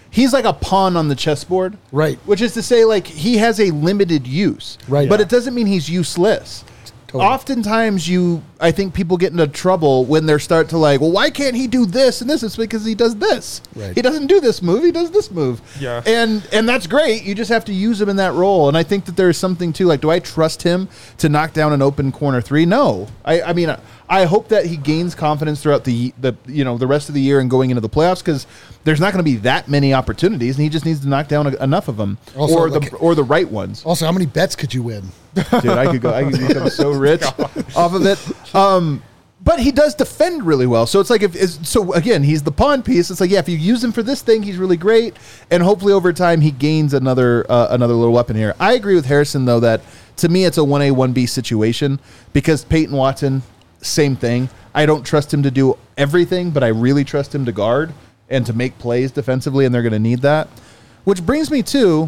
he's like a pawn on the chessboard. Right. Which is to say, like, he has a limited use. Right. But Yeah. it doesn't mean he's useless. Totally. Oftentimes, you, I think people get into trouble when they start to like, well, why can't he do this and this? It's because he does this. Right. He doesn't do this move. He does this move. Yeah. And and that's great. You just have to use him in that role. And I think that there's something too. Like, do I trust him to knock down an open corner three? No. I, I mean, I hope that he gains confidence throughout the the you know the rest of the year and going into the playoffs, because there's not going to be that many opportunities, and he just needs to knock down a, enough of them, Also, or like- the or the right ones. Also, how many bets could you win? Dude, I could go. I could become so rich off of it. Um, but he does defend really well. So it's like if is so again, he's the pawn piece. It's like, yeah, if you use him for this thing, he's really great, and hopefully over time he gains another uh, another little weapon here. I agree with Harrison though that to me it's a one A one B situation, because Peyton Watson, same thing. I don't trust him to do everything, but I really trust him to guard and to make plays defensively, and they're going to need that. Which brings me to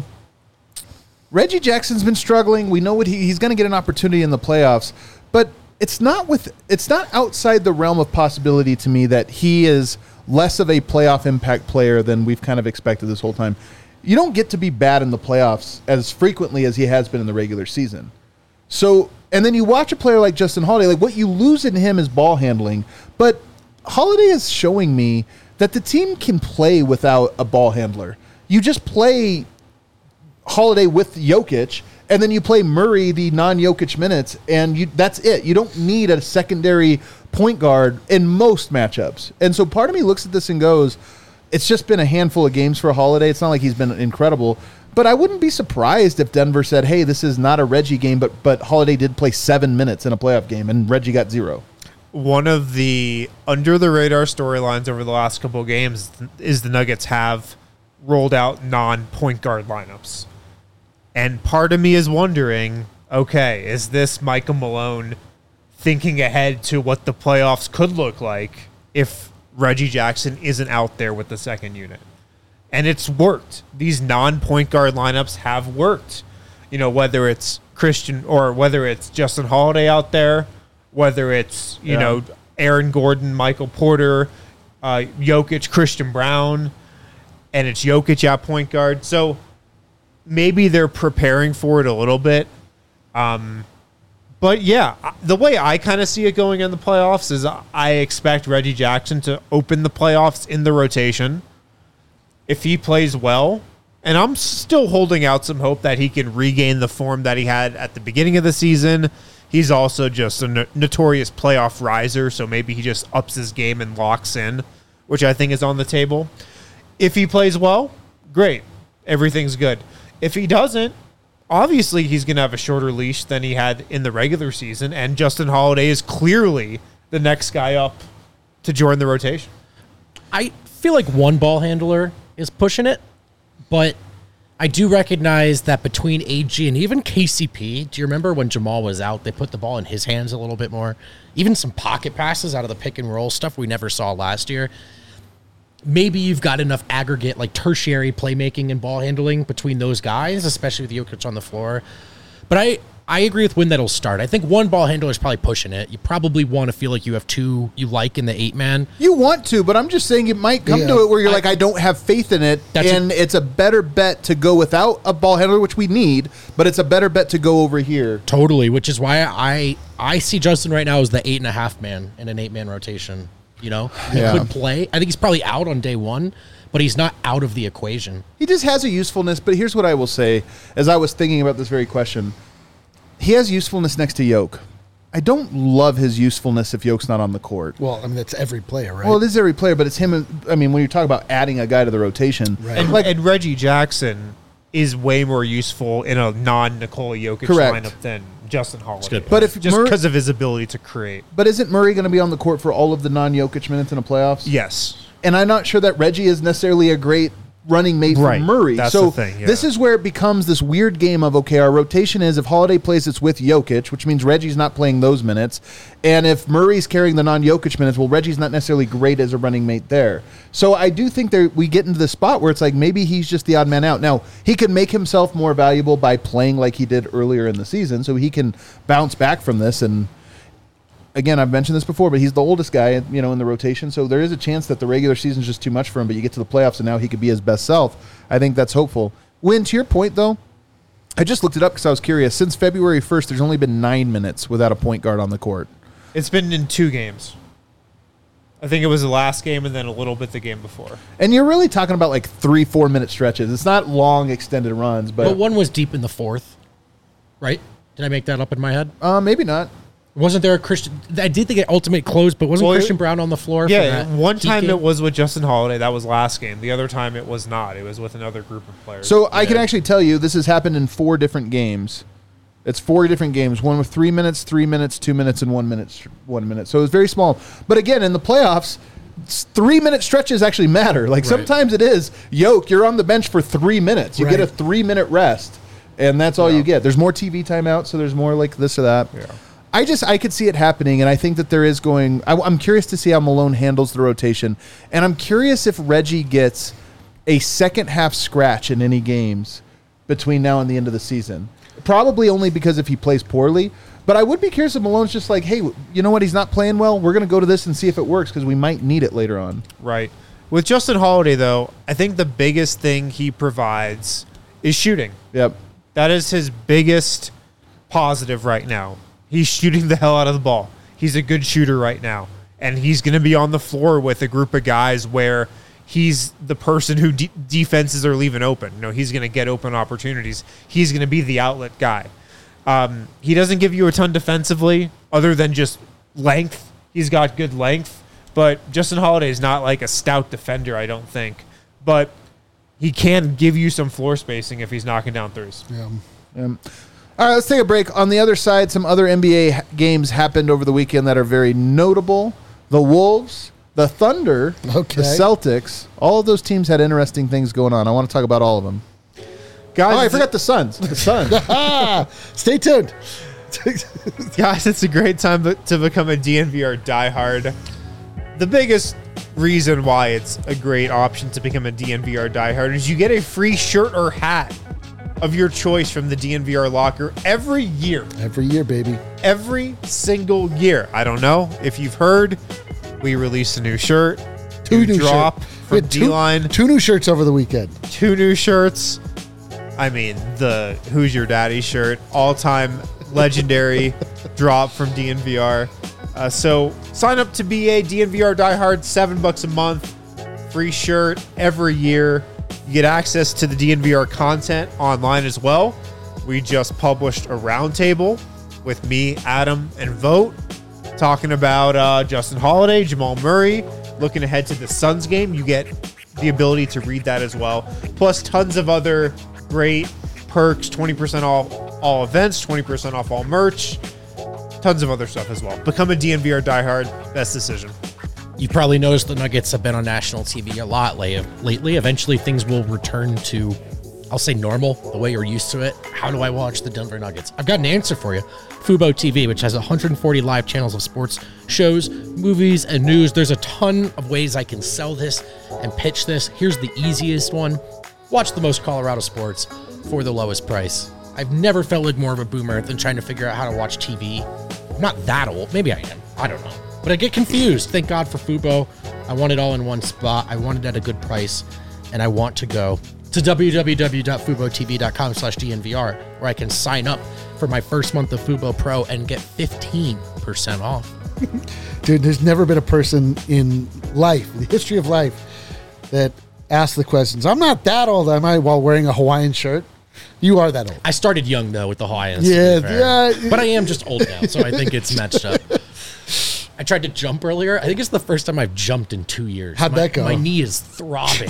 Reggie Jackson's been struggling. We know what he, he's going to get an opportunity in the playoffs, but it's not with it's not outside the realm of possibility to me that he is less of a playoff impact player than we've kind of expected this whole time. You don't get to be bad in the playoffs as frequently as he has been in the regular season. So, and then you watch a player like Justin Holiday, like what you lose in him is ball handling, but Holiday is showing me that the team can play without a ball handler. You just play Holiday with Jokic, and then you play Murray the non-Jokic minutes, and you that's it. You don't need a secondary point guard in most matchups. And so part of me looks at this and goes, it's just been a handful of games for Holiday. It's not like he's been incredible. But I wouldn't be surprised if Denver said, hey, this is not a Reggie game, but but Holiday did play seven minutes in a playoff game, and Reggie got zero. One of the under-the-radar storylines over the last couple of games is the Nuggets have rolled out non-point guard lineups. And part of me is wondering, okay, is this Michael Malone thinking ahead to what the playoffs could look like if Reggie Jackson isn't out there with the second unit? And it's worked. These non-point guard lineups have worked. You know, whether it's Christian or whether it's Justin Holiday out there, whether it's, you Yeah. know, Aaron Gordon, Michael Porter, uh, Jokic, Christian Brown, and it's Jokic at point guard. So maybe they're preparing for it a little bit. Um, but yeah, the way I kind of see it going in the playoffs is I expect Reggie Jackson to open the playoffs in the rotation. If he plays well, and I'm still holding out some hope that he can regain the form that he had at the beginning of the season. He's also just a no- notorious playoff riser, so maybe he just ups his game and locks in, which I think is on the table. If he plays well, great. Everything's good. If he doesn't, obviously he's going to have a shorter leash than he had in the regular season, and Justin Holiday is clearly the next guy up to join the rotation. I feel like one ball handler is pushing it, but I do recognize that between A G and even K C P, do you remember when Jamal was out, they put the ball in his hands a little bit more? Even some pocket passes out of the pick and roll stuff we never saw last year. Maybe you've got enough aggregate, like tertiary playmaking and ball handling between those guys, especially with Jokic on the floor. But I, I agree with when that'll start. I think one ball handler is probably pushing it. You probably want to feel like you have two you like in the eight man. You want to, but I'm just saying it might come Yeah. to it where you're I- like, I don't have faith in it, That's a- and it's a better bet to go without a ball handler, which we need, but it's a better bet to go over here. Totally, which is why I I see Justin right now as the eight and a half man in an eight man rotation. You know, he Yeah. could play. I think he's probably out on day one, but he's not out of the equation. He just has a usefulness, but here's what I will say, as I was thinking about this very question. He has usefulness next to Yoke. I don't love his usefulness if Yoke's not on the court. Well, I mean, that's every player, right? Well, it is every player, but it's him. I mean, when you talk about adding a guy to the rotation, Right. And, like and Reggie Jackson is way more useful in a non-Nikola Jokic Correct. lineup than Justin Holiday. good point. But if just Murray- because of his ability to create. But isn't Murray going to be on the court for all of the non-Jokic minutes in the playoffs? Yes. And I'm not sure that Reggie is necessarily a great running mate Right. for Murray. That's so the thing, yeah. this is where it becomes this weird game of, okay, our rotation is if Holiday plays, it's with Jokic, which means Reggie's not playing those minutes. And if Murray's carrying the non-Jokic minutes, well, Reggie's not necessarily great as a running mate there. So I do think there we get into the spot where it's like maybe he's just the odd man out. Now, he can make himself more valuable by playing like he did earlier in the season, so he can bounce back from this. And again, I've mentioned this before, but he's the oldest guy, you know, in the rotation. So there is a chance that the regular season is just too much for him. But you get to the playoffs, and now he could be his best self. I think that's hopeful. Win, to your point, though, I just looked it up because I was curious. Since February first, there's only been nine minutes without a point guard on the court. It's been in two games. I think it was the last game and then a little bit the game before. And you're really talking about like three, four minute stretches. It's not long, extended runs, but, But one was deep in the fourth, right? Did I make that up in my head? uh, maybe not. Wasn't there a Christian? I did think it ultimate closed, but wasn't Well, Christian it- Brown on the floor? for Yeah, that one Heat time game? it was with Justin Holiday. That was last game. The other time it was not. It was with another group of players. So I can Yeah. actually tell you this has happened in four different games. It's four different games. One with three minutes, three minutes, two minutes, and one minute. One minute. So it was very small. But again, in the playoffs, s- three minute stretches actually matter. Like Right. sometimes it is. Yoke, you're on the bench for three minutes. You get a Right. three minute rest, and that's all you get. There's more T V timeout, so there's more like this or that. Yeah. I just I could see it happening, and I think that there is going. I, I'm curious to see how Malone handles the rotation, and I'm curious if Reggie gets a second half scratch in any games between now and the end of the season. Probably only because if he plays poorly. But I would be curious if Malone's just like, hey, you know what? He's not playing well. We're going to go to this and see if it works because we might need it later on. Right. With Justin Holiday, though, I think the biggest thing he provides is shooting. Yep. That is his biggest positive right now. He's shooting the hell out of the ball. He's a good shooter right now. And he's going to be on the floor with a group of guys where he's the person who de- defenses are leaving open. You know, he's going to get open opportunities. He's going to be the outlet guy. Um, he doesn't give you a ton defensively other than just length. He's got good length. But Justin Holiday is not like a stout defender, I don't think. But he can give you some floor spacing if he's knocking down threes. Yeah. Um, all right, let's take a break. On the other side, some other N B A ha- games happened over the weekend that are very notable. The Wolves, the Thunder, Okay. the Celtics, all of those teams had interesting things going on. I want to talk about all of them. Guys, Oh, I forgot the Suns. The Suns. Ah, stay tuned. Guys, it's a great time to- to become a D N V R diehard. The biggest reason why it's a great option to become a D N V R diehard is you get a free shirt or hat of your choice from the D N V R locker every year. Every year, baby. Every single year. I don't know if you've heard, we released a new shirt. Two new drop shirts. from We had two- D-Line. Two new shirts over the weekend. Two new shirts. I mean, the Who's Your Daddy shirt, all-time legendary drop from D N V R. Uh, so sign up to be a D N V R diehard, seven bucks a month, free shirt every year. You get access to the D N V R content online as well. We just published a roundtable with me, Adam, and Vote talking about uh, Justin Holiday, Jamal Murray, looking ahead to the Suns game. You get the ability to read that as well. Plus tons of other great perks, twenty percent off all events, twenty percent off all merch, tons of other stuff as well. Become a D N V R diehard. Best decision. You probably noticed the Nuggets have been on national T V a lot late- lately. Eventually, things will return to, I'll say, normal, the way you're used to it. How do I watch the Denver Nuggets? I've got an answer for you. Fubo T V, which has one hundred forty live channels of sports, shows, movies, and news. There's a ton of ways I can sell this and pitch this. Here's the easiest one. Watch the most Colorado sports for the lowest price. I've never felt like more of a boomer than trying to figure out how to watch T V. I'm not that old. Maybe I am. I don't know. But I get confused. Thank God for Fubo. I want it all in one spot. I want it at a good price. And I want to go to www.fubotv.com slash DNVR where I can sign up for my first month of Fubo Pro and get fifteen percent off. Dude, there's never been a person in life, in the history of life, that asked the questions. I'm not that old, am I, while wearing a Hawaiian shirt? You are that old. I started young, though, with the Hawaiians. to be Yeah, fair. yeah. But I am just old now, so I think it's matched up. I tried to jump earlier. I think it's the first time I've jumped in two years. How'd my, that go? My knee is throbbing.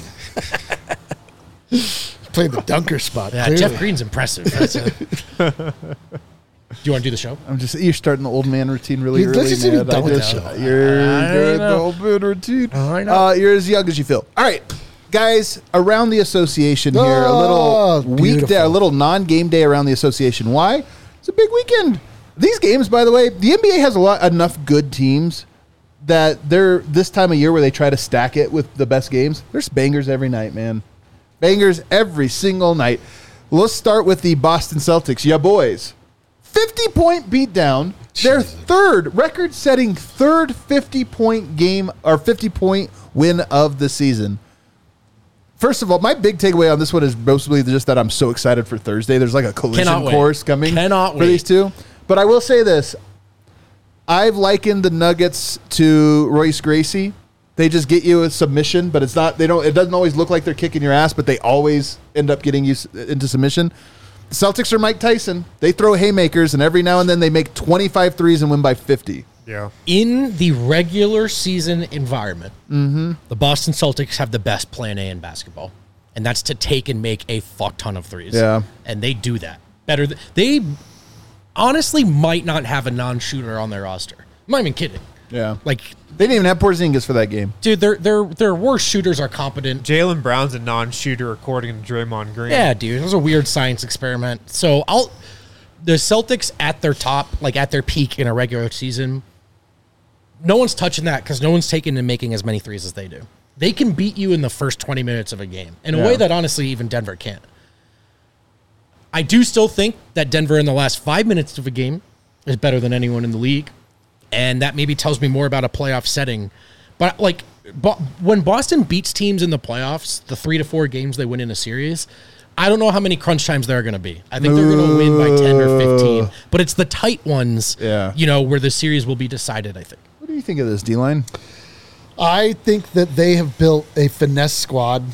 Playing the dunker spot. Yeah, clearly. Jeff Green's impressive. That's it. Do you want to do the show? I'm just you're starting the old man routine really Let's early, just be man. done I with just- that. You're I doing the know. old man routine. I know. Uh, you're as young as you feel. All right, guys, around the association here, a Oh, little weekday, beautiful. a little non-game day around the association. Why? It's a big weekend. These games, by the way, the N B A has a lot enough good teams that they're this time of year where they try to stack it with the best games. There's bangers every night, man. Bangers every single night. Let's start with the Boston Celtics. Yeah, boys. fifty-point beatdown Their third record-setting third fifty-point game or fifty-point win of the season. First of all, my big takeaway on this one is mostly just that I'm so excited for Thursday. There's like a collision Cannot course wait. coming Cannot for wait. these two. But I will say this. I've likened the Nuggets to Royce Gracie. They just get you a submission, but it's not. They don't. It doesn't always look like they're kicking your ass, but they always end up getting you s- into submission. The Celtics are Mike Tyson. They throw haymakers, and every now and then they make twenty-five threes and win by fifty. Yeah. In the regular season environment, Mm-hmm. the Boston Celtics have the best plan A in basketball, and that's to take and make a fuck ton of threes. Yeah. And they do that better. Th- they honestly might not have a non-shooter on their roster. I'm not even kidding. Yeah, Like, they didn't even have Porzingis for that game. dude, their their their worst shooters are competent. Jaylen Brown's a non-shooter according to Draymond Green. Yeah, dude, it was a weird science experiment. So I'll the Celtics at their top, like at their peak in a regular season, no one's touching that because no one's taking and making as many threes as they do. They can beat you in the first twenty minutes of a game in a Yeah. way that honestly even Denver can't. I do still think that Denver in the last five minutes of a game is better than anyone in the league, and that maybe tells me more about a playoff setting. But like, Bo- when Boston beats teams in the playoffs, the three to four games they win in a series, I don't know how many crunch times there are going to be. I think they're going to win by ten or fifteen, but it's the tight ones, Yeah. you know, where the series will be decided, I think. What do you think of this, D-Line? I think that they have built a finesse squad,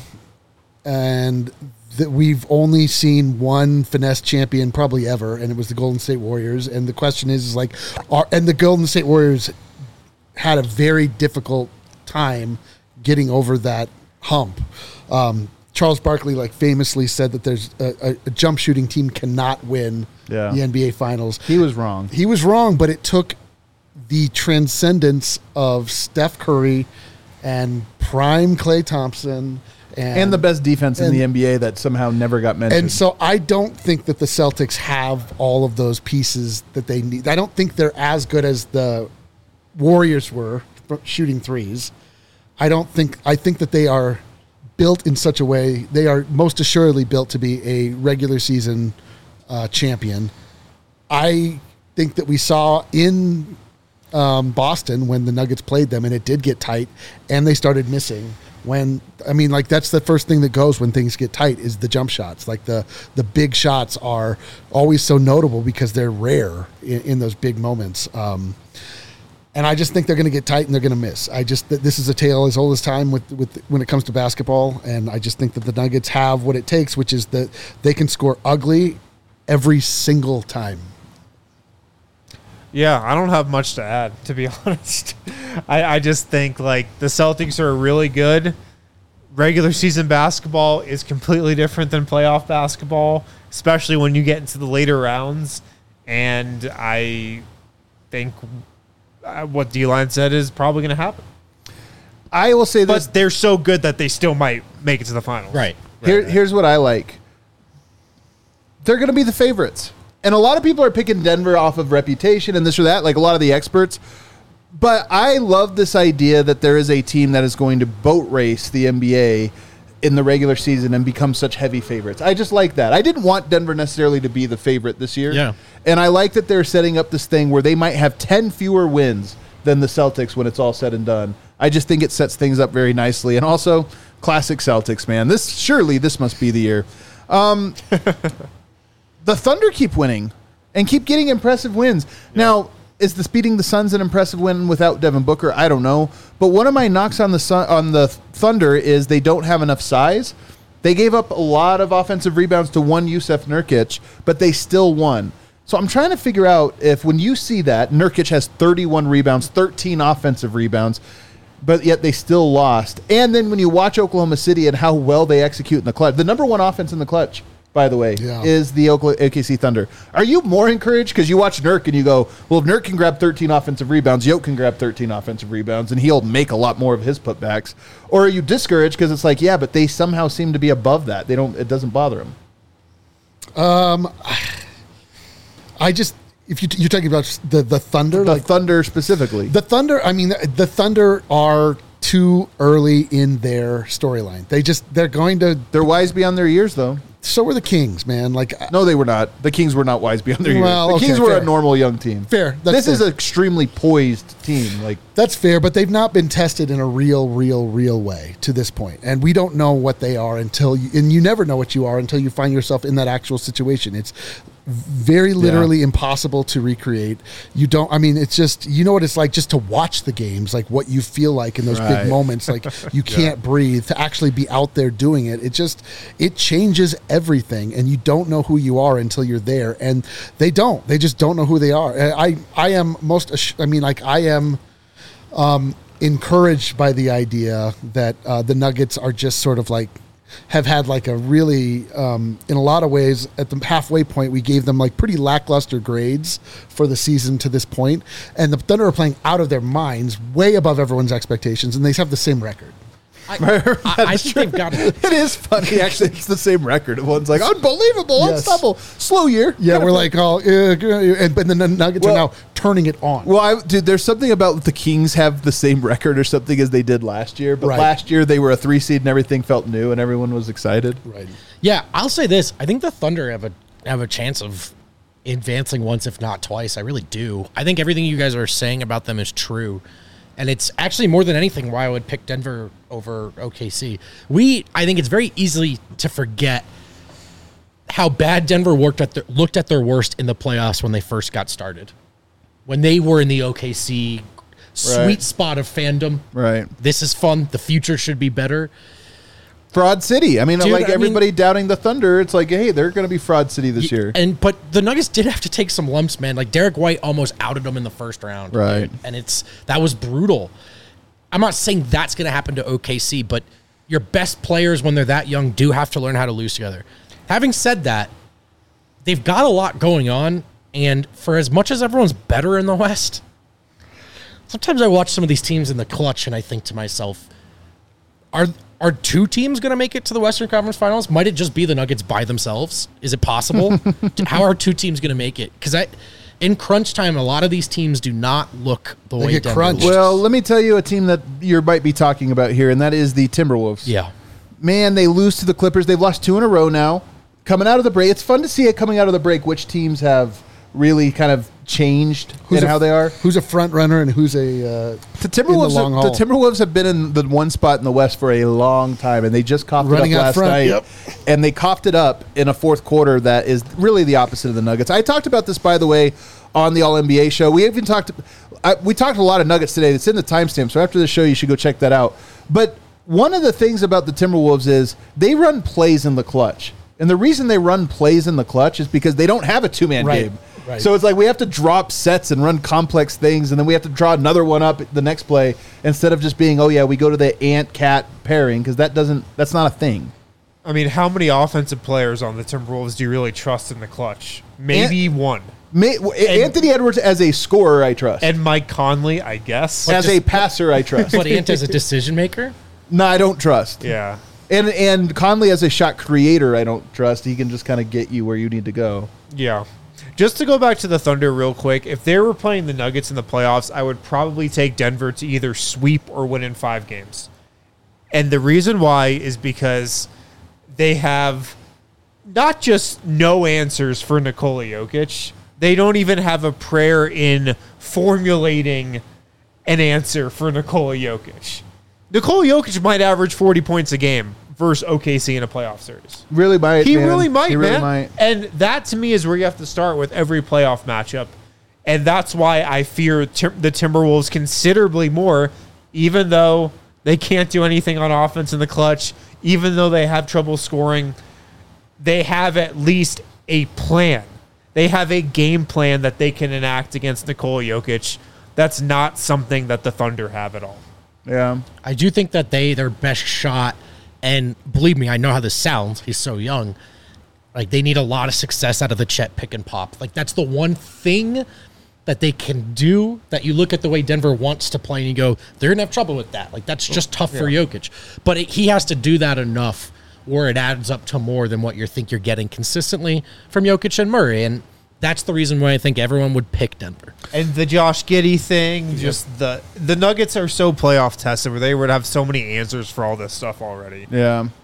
and that we've only seen one finesse champion probably ever, and it was the Golden State Warriors. And the question is, is like, are and the Golden State Warriors had a very difficult time getting over that hump. Um, Charles Barkley, like famously said that there's a, a, a jump shooting team cannot win Yeah. the N B A Finals. He was wrong. He was wrong, but it took the transcendence of Steph Curry and prime Klay Thompson and, And the best defense in and- the N B A that somehow never got mentioned. And so I don't think that the Celtics have all of those pieces that they need. I don't think they're as good as the Warriors were for shooting threes. I don't think I think that they are built in such a way, they are most assuredly built to be a regular season uh, champion. I think that we saw in um, Boston when the Nuggets played them, and it did get tight, and they started missing. When I mean, like that's the first thing that goes when things get tight is the jump shots. Like the the big shots are always so notable because they're rare in, in those big moments. Um, and I just think they're going to get tight and they're going to miss. I just th- this is a tale as old as time with with when it comes to basketball, and I just think that the Nuggets have what it takes, which is that they can score ugly every single time. Yeah, I don't have much to add, to be honest. I, I just think like the Celtics are really good. Regular season basketball is completely different than playoff basketball, especially when you get into the later rounds. And I think uh, what D-Line said is probably going to happen. I will say this. But they're so good that they still might make it to the finals. Right. Here, here's what I like. They're going to be the favorites. And a lot of people are picking Denver off of reputation and this or that, like a lot of the experts. But I love this idea that there is a team that is going to boat race the N B A in the regular season and become such heavy favorites. I just like that. I didn't want Denver necessarily to be the favorite this year. Yeah. And I like that they're setting up this thing where they might have ten fewer wins than the Celtics when it's all said and done. I just think it sets things up very nicely. And also, classic Celtics, man. This surely this must be the year. Um, the Thunder keep winning and keep getting impressive wins. Yeah. Now, is the beating the Suns an impressive win without Devin Booker? I don't know. But one of my knocks on the Sun, on the Thunder is they don't have enough size. They gave up a lot of offensive rebounds to one Yusuf Nurkic, but they still won. So I'm trying to figure out if when you see that, Nurkic has thirty-one rebounds, thirteen offensive rebounds, but yet they still lost. And then when you watch Oklahoma City and how well they execute in the clutch, the number one offense in the clutch, by the way, yeah. is the O K C Thunder. Are you more encouraged because you watch Nurk and you go, well, if Nurk can grab thirteen offensive rebounds, Yoke can grab thirteen offensive rebounds, and he'll make a lot more of his putbacks? Or are you discouraged because it's like, yeah, but they somehow seem to be above that. They don't. It doesn't bother them. Um, I just if you you're talking about the the Thunder, The like Thunder specifically. the Thunder. I mean, the, the Thunder are too early in their storyline. They just they're going to They're wise beyond their years, though. so were the Kings, man. Like, No, they were not. The Kings were not wise beyond their years. Well, The okay, Kings were fair. a normal young team. Fair. That's This is fair. an extremely poised team. Like that's fair, but they've not been tested in a real, real, real way to this point, and we don't know what they are until, you, and you never know what you are until you find yourself in that actual situation. It's very literally Yeah. impossible to recreate. You don't. I mean, it's just, you know what it's like just to watch the games, like what you feel like in those Right. big moments, like you can't breathe. To actually be out there doing it, it just it changes everything, and you don't know who you are until you're there, and they don't. They just don't know who they are. And I I am most. ass- I mean, like I am. Um, encouraged by the idea that uh, the Nuggets are just sort of like have had like a really um, in a lot of ways at the halfway point we gave them like pretty lackluster grades for the season to this point, and the Thunder are playing out of their minds, way above everyone's expectations, and they have the same record. I, I, I think they've got. it is funny. Actually, it's the same record. One's like unbelievable, Yes. unstoppable, slow year. Yeah, we're like, oh, uh, and but then the Nuggets Well- are now turning it on. Well, I, dude, there's something about the Kings have the same record or something as they did last year. But Right. last year they were a three seed and everything felt new and everyone was excited. Right. Yeah, I'll say this. I think the Thunder have a have a chance of advancing once, if not twice. I really do. I think everything you guys are saying about them is true. And it's actually more than anything why I would pick Denver over O K C. We, I think it's very easy to forget how bad Denver worked at their, looked at their worst in the playoffs when they first got started. When they were in the O K C sweet Right. spot of fandom. Right. This is fun. The future should be better. Fraud City. I mean, Dude, like I mean- everybody doubting the Thunder. It's like, hey, they're going to be Fraud City this year. And but the Nuggets did have to take some lumps, man. Like Derek White almost outed them in the first round, Right. dude. And it's that was brutal. I'm not saying that's going to happen to O K C, but your best players when they're that young do have to learn how to lose together. Having said that, they've got a lot going on, and for as much as everyone's better in the West, sometimes I watch some of these teams in the clutch and I think to myself, are are two teams going to make it to the Western Conference Finals? Might it just be the Nuggets by themselves? Is it possible? How are two teams going to make it? Because I, in crunch time, a lot of these teams do not look the They way get Denver crunched. looks. Well, let me tell you a team that you might be talking about here, and that is the Timberwolves. Yeah. Man, they lose to the Clippers. They've lost two in a row now. Coming out of the break, it's fun to see it coming out of the break, which teams have really kind of changed in a, how they are. Who's a front runner and who's a uh, The Timberwolves, long the haul. Timberwolves have been in the one spot in the West for a long time, and they just coughed Running it up out last front, night. yep. And they coughed it up in a fourth quarter that is really the opposite of the Nuggets. I talked about this, by the way, on the All N B A show. We even talked. I, we talked a lot of Nuggets today. It's in the timestamp, so after the show, you should go check that out. But one of the things about the Timberwolves is they run plays in the clutch. And the reason they run plays in the clutch is because they don't have a two-man Right, game. right. So it's like we have to drop sets and run complex things, and then we have to draw another one up the next play instead of just being, oh yeah, we go to the ant-cat pairing, because that doesn't that's not a thing. I mean, how many offensive players on the Timberwolves do you really trust in the clutch? Maybe one. May, Anthony Edwards as a scorer, I trust. And Mike Conley, I guess. as a passer, I trust. But Ant is a decision maker? No, I don't trust. Yeah. And and Conley as a shot creator, I don't trust. He can just kind of get you where you need to go. Yeah. Just to go back to the Thunder real quick, if they were playing the Nuggets in the playoffs, I would probably take Denver to either sweep or win in five games. And the reason why is because they have not just no answers for Nikola Jokic, they don't even have a prayer in formulating an answer for Nikola Jokic. Nikola Jokic might average forty points a game versus O K C in a playoff series. Really might. He man. really might, He man. really might. And that to me is where you have to start with every playoff matchup. And that's why I fear tim- the Timberwolves considerably more, even though they can't do anything on offense in the clutch, even though they have trouble scoring. They have at least a plan. They have a game plan that they can enact against Nikola Jokic. That's not something that the Thunder have at all. Yeah. I do think that they, their best shot, and believe me, I know how this sounds. He's so young. Like, they need a lot of success out of the Chet pick and pop. Like, that's the one thing that they can do that you look at the way Denver wants to play and you go, they're going to have trouble with that. Like, that's just tough for Jokic. But it, he has to do that enough where it adds up to more than what you think you're getting consistently from Jokic and Murray. And that's the reason why I think everyone would pick Denver. And the Josh Giddey thing, just the the Nuggets are so playoff tested where they would have so many answers for all this stuff already. Yeah.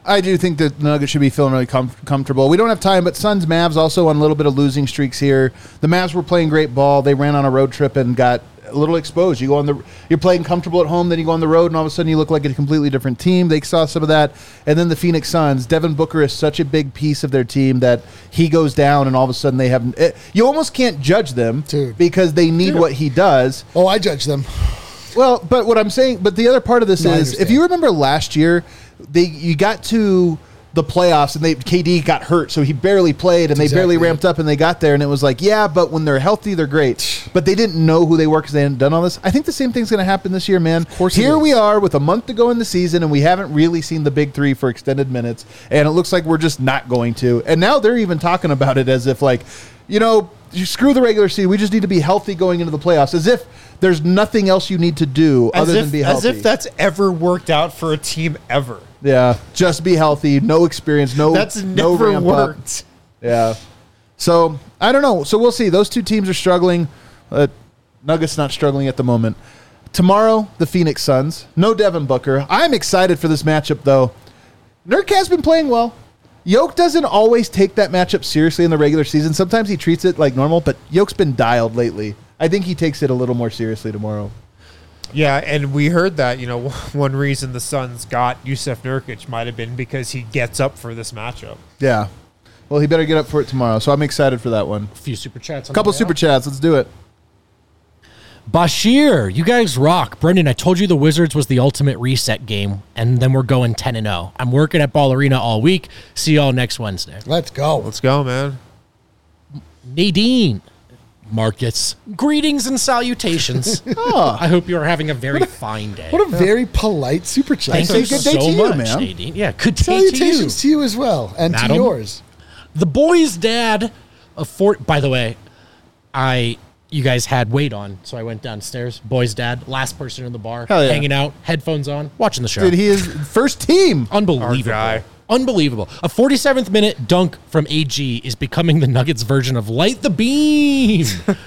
I do think that the Nuggets should be feeling really com- comfortable. We don't have time, but Suns Mavs also on a little bit of losing streaks here. The Mavs were playing great ball. They ran on a road trip and got a little exposed. You go on the, you're playing comfortable at home, then you go on the road, and all of a sudden you look like a completely different team. They saw some of that, and then the Phoenix Suns. Devin Booker is such a big piece of their team that he goes down, and all of a sudden they have. It, you almost can't judge them Dude. because they need Dude. what he does. Oh, I judge them. Well, but what I'm saying, but the other part of this No, I is, if understand. you remember last year, they you got to the playoffs and they K D got hurt, so he barely played, and they barely exactly ramped up, and they got there, and it was like, yeah, but when they're healthy, they're great. But they didn't know who they were because they hadn't done all this. I think the same thing's going to happen this year, man. Of course it Here is. we are with a month to go in the season, and we haven't really seen the big three for extended minutes, and it looks like we're just not going to. And now they're even talking about it as if, like, you know, you screw the regular season. We just need to be healthy going into the playoffs, as if there's nothing else you need to do As other if, than be as healthy. if that's ever worked out for a team ever. Yeah, just be healthy, no experience, no That's no never ramp up. worked. Yeah. So, I don't know. So, we'll see. Those two teams are struggling. Uh, Nuggets not struggling at the moment. Tomorrow, the Phoenix Suns. No Devin Booker. I'm excited for this matchup, though. Nurk has been playing well. Yoke doesn't always take that matchup seriously in the regular season. Sometimes he treats it like normal, but Yoke's been dialed lately. I think he takes it a little more seriously tomorrow. Yeah, and we heard that, you know, one reason the Suns got Yusuf Nurkic might have been because he gets up for this matchup. Yeah. Well, he better get up for it tomorrow, so I'm excited for that one. A few super chats. On A couple the way super out. chats. Let's do it. Bashir, you guys rock. Brendan, I told you the Wizards was the ultimate reset game, and then we're going ten and oh. I'm working at Ball Arena all week. See y'all next Wednesday. Let's go. Let's go, man. Nadine, Marcus, greetings and salutations. Oh. I hope you're having a very fine day. What a very polite super chat. Thank say you good day so to you, much, man. Nadine. Yeah, good day to you. Salutations to you as well, and to Madam? yours. The boy's dad of Fort. By the way, I you guys had Wade on, so I went downstairs. Boy's dad, last person in the bar, Hell yeah. hanging out, headphones on, watching the show. Dude, he is first team. Unbelievable. Our guy. Unbelievable. A forty-seventh minute dunk from A G is becoming the Nuggets version of Light the Beam.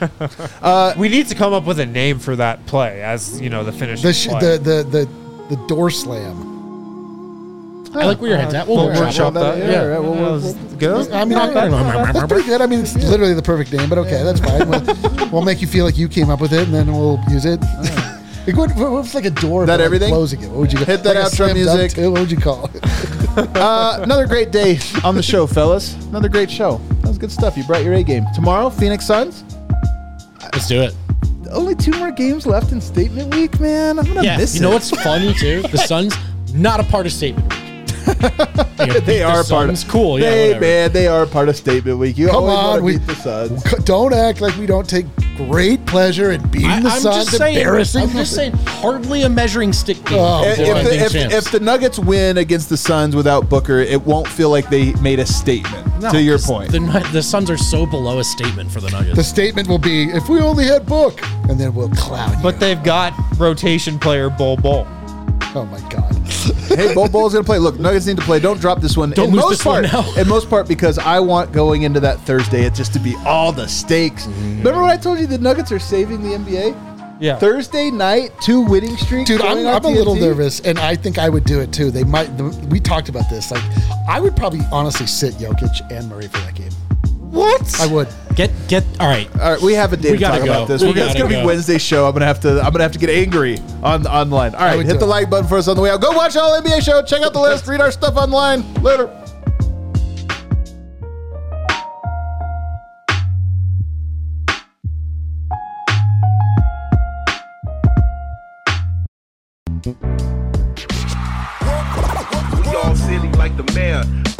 We need to come up with a name for that play as, you know, the finish. The, sh- the the the the door slam. I like where your head's at. We'll We'll workshop workshop that. that. Yeah. all right, well, we'll- we'll- Good. I mean, I, that's pretty good. I mean, it's literally the perfect name, but okay, that's fine. We'll, we'll make you feel like you came up with it, and then we'll use it. Like, what, what was like a door? That but, like, everything? Closing it. What would you Hit that like a outro slam dunk music. too? What would you call it? Uh, another great day on the show, fellas. Another great show. That was good stuff. You brought your A game. Tomorrow, Phoenix Suns. Let's do it. Only two more games left in Statement Week, man. I'm gonna Yeah. miss You know it. what's funny too? The Suns not a part of Statement Week. They are the part of. Suns, cool. Yeah, They whatever. man, they are part of Statement Week. You Come always on, want to we- beat the Suns. Don't act like we don't take great pleasure in beating I, the I'm Suns. just saying. Embarrassing. I'm just saying. Hardly a measuring stick game. Oh, If, boy. if, the, Defending if, champs. if the Nuggets win against the Suns without Booker, it won't feel like they made a statement. No, to your 'cause point, the, Nu- the Suns are so below a statement for the Nuggets. The statement will be, if we only had Book, and then we'll clown you. But they've got rotation player Bol Bol. Oh, my God. hey, Bol Bol's gonna play. Look, Nuggets need to play. Don't drop this one. Don't in lose most this one part, now. in most part, because I want going into that Thursday it just to be all the stakes. Mm-hmm. Remember when I told you the Nuggets are saving the N B A? Yeah. Thursday night, two winning streaks. Dude, I'm, going on I'm a little T N T. nervous, and I think I would do it too. They might. The, we talked about this. Like, I would probably honestly sit Jokic and Murray for that game. What? I would. Get get all right. All right, we have a day We to gotta talk go. about this. We We're gonna, it's gotta gonna be go. Wednesday show. I'm gonna have to. I'm gonna have to get angry on online. All right, would hit do the it. like button for us on the way out. Go watch all N B A show. Check out the list. Read our stuff online. Later. We all silly like the mayor.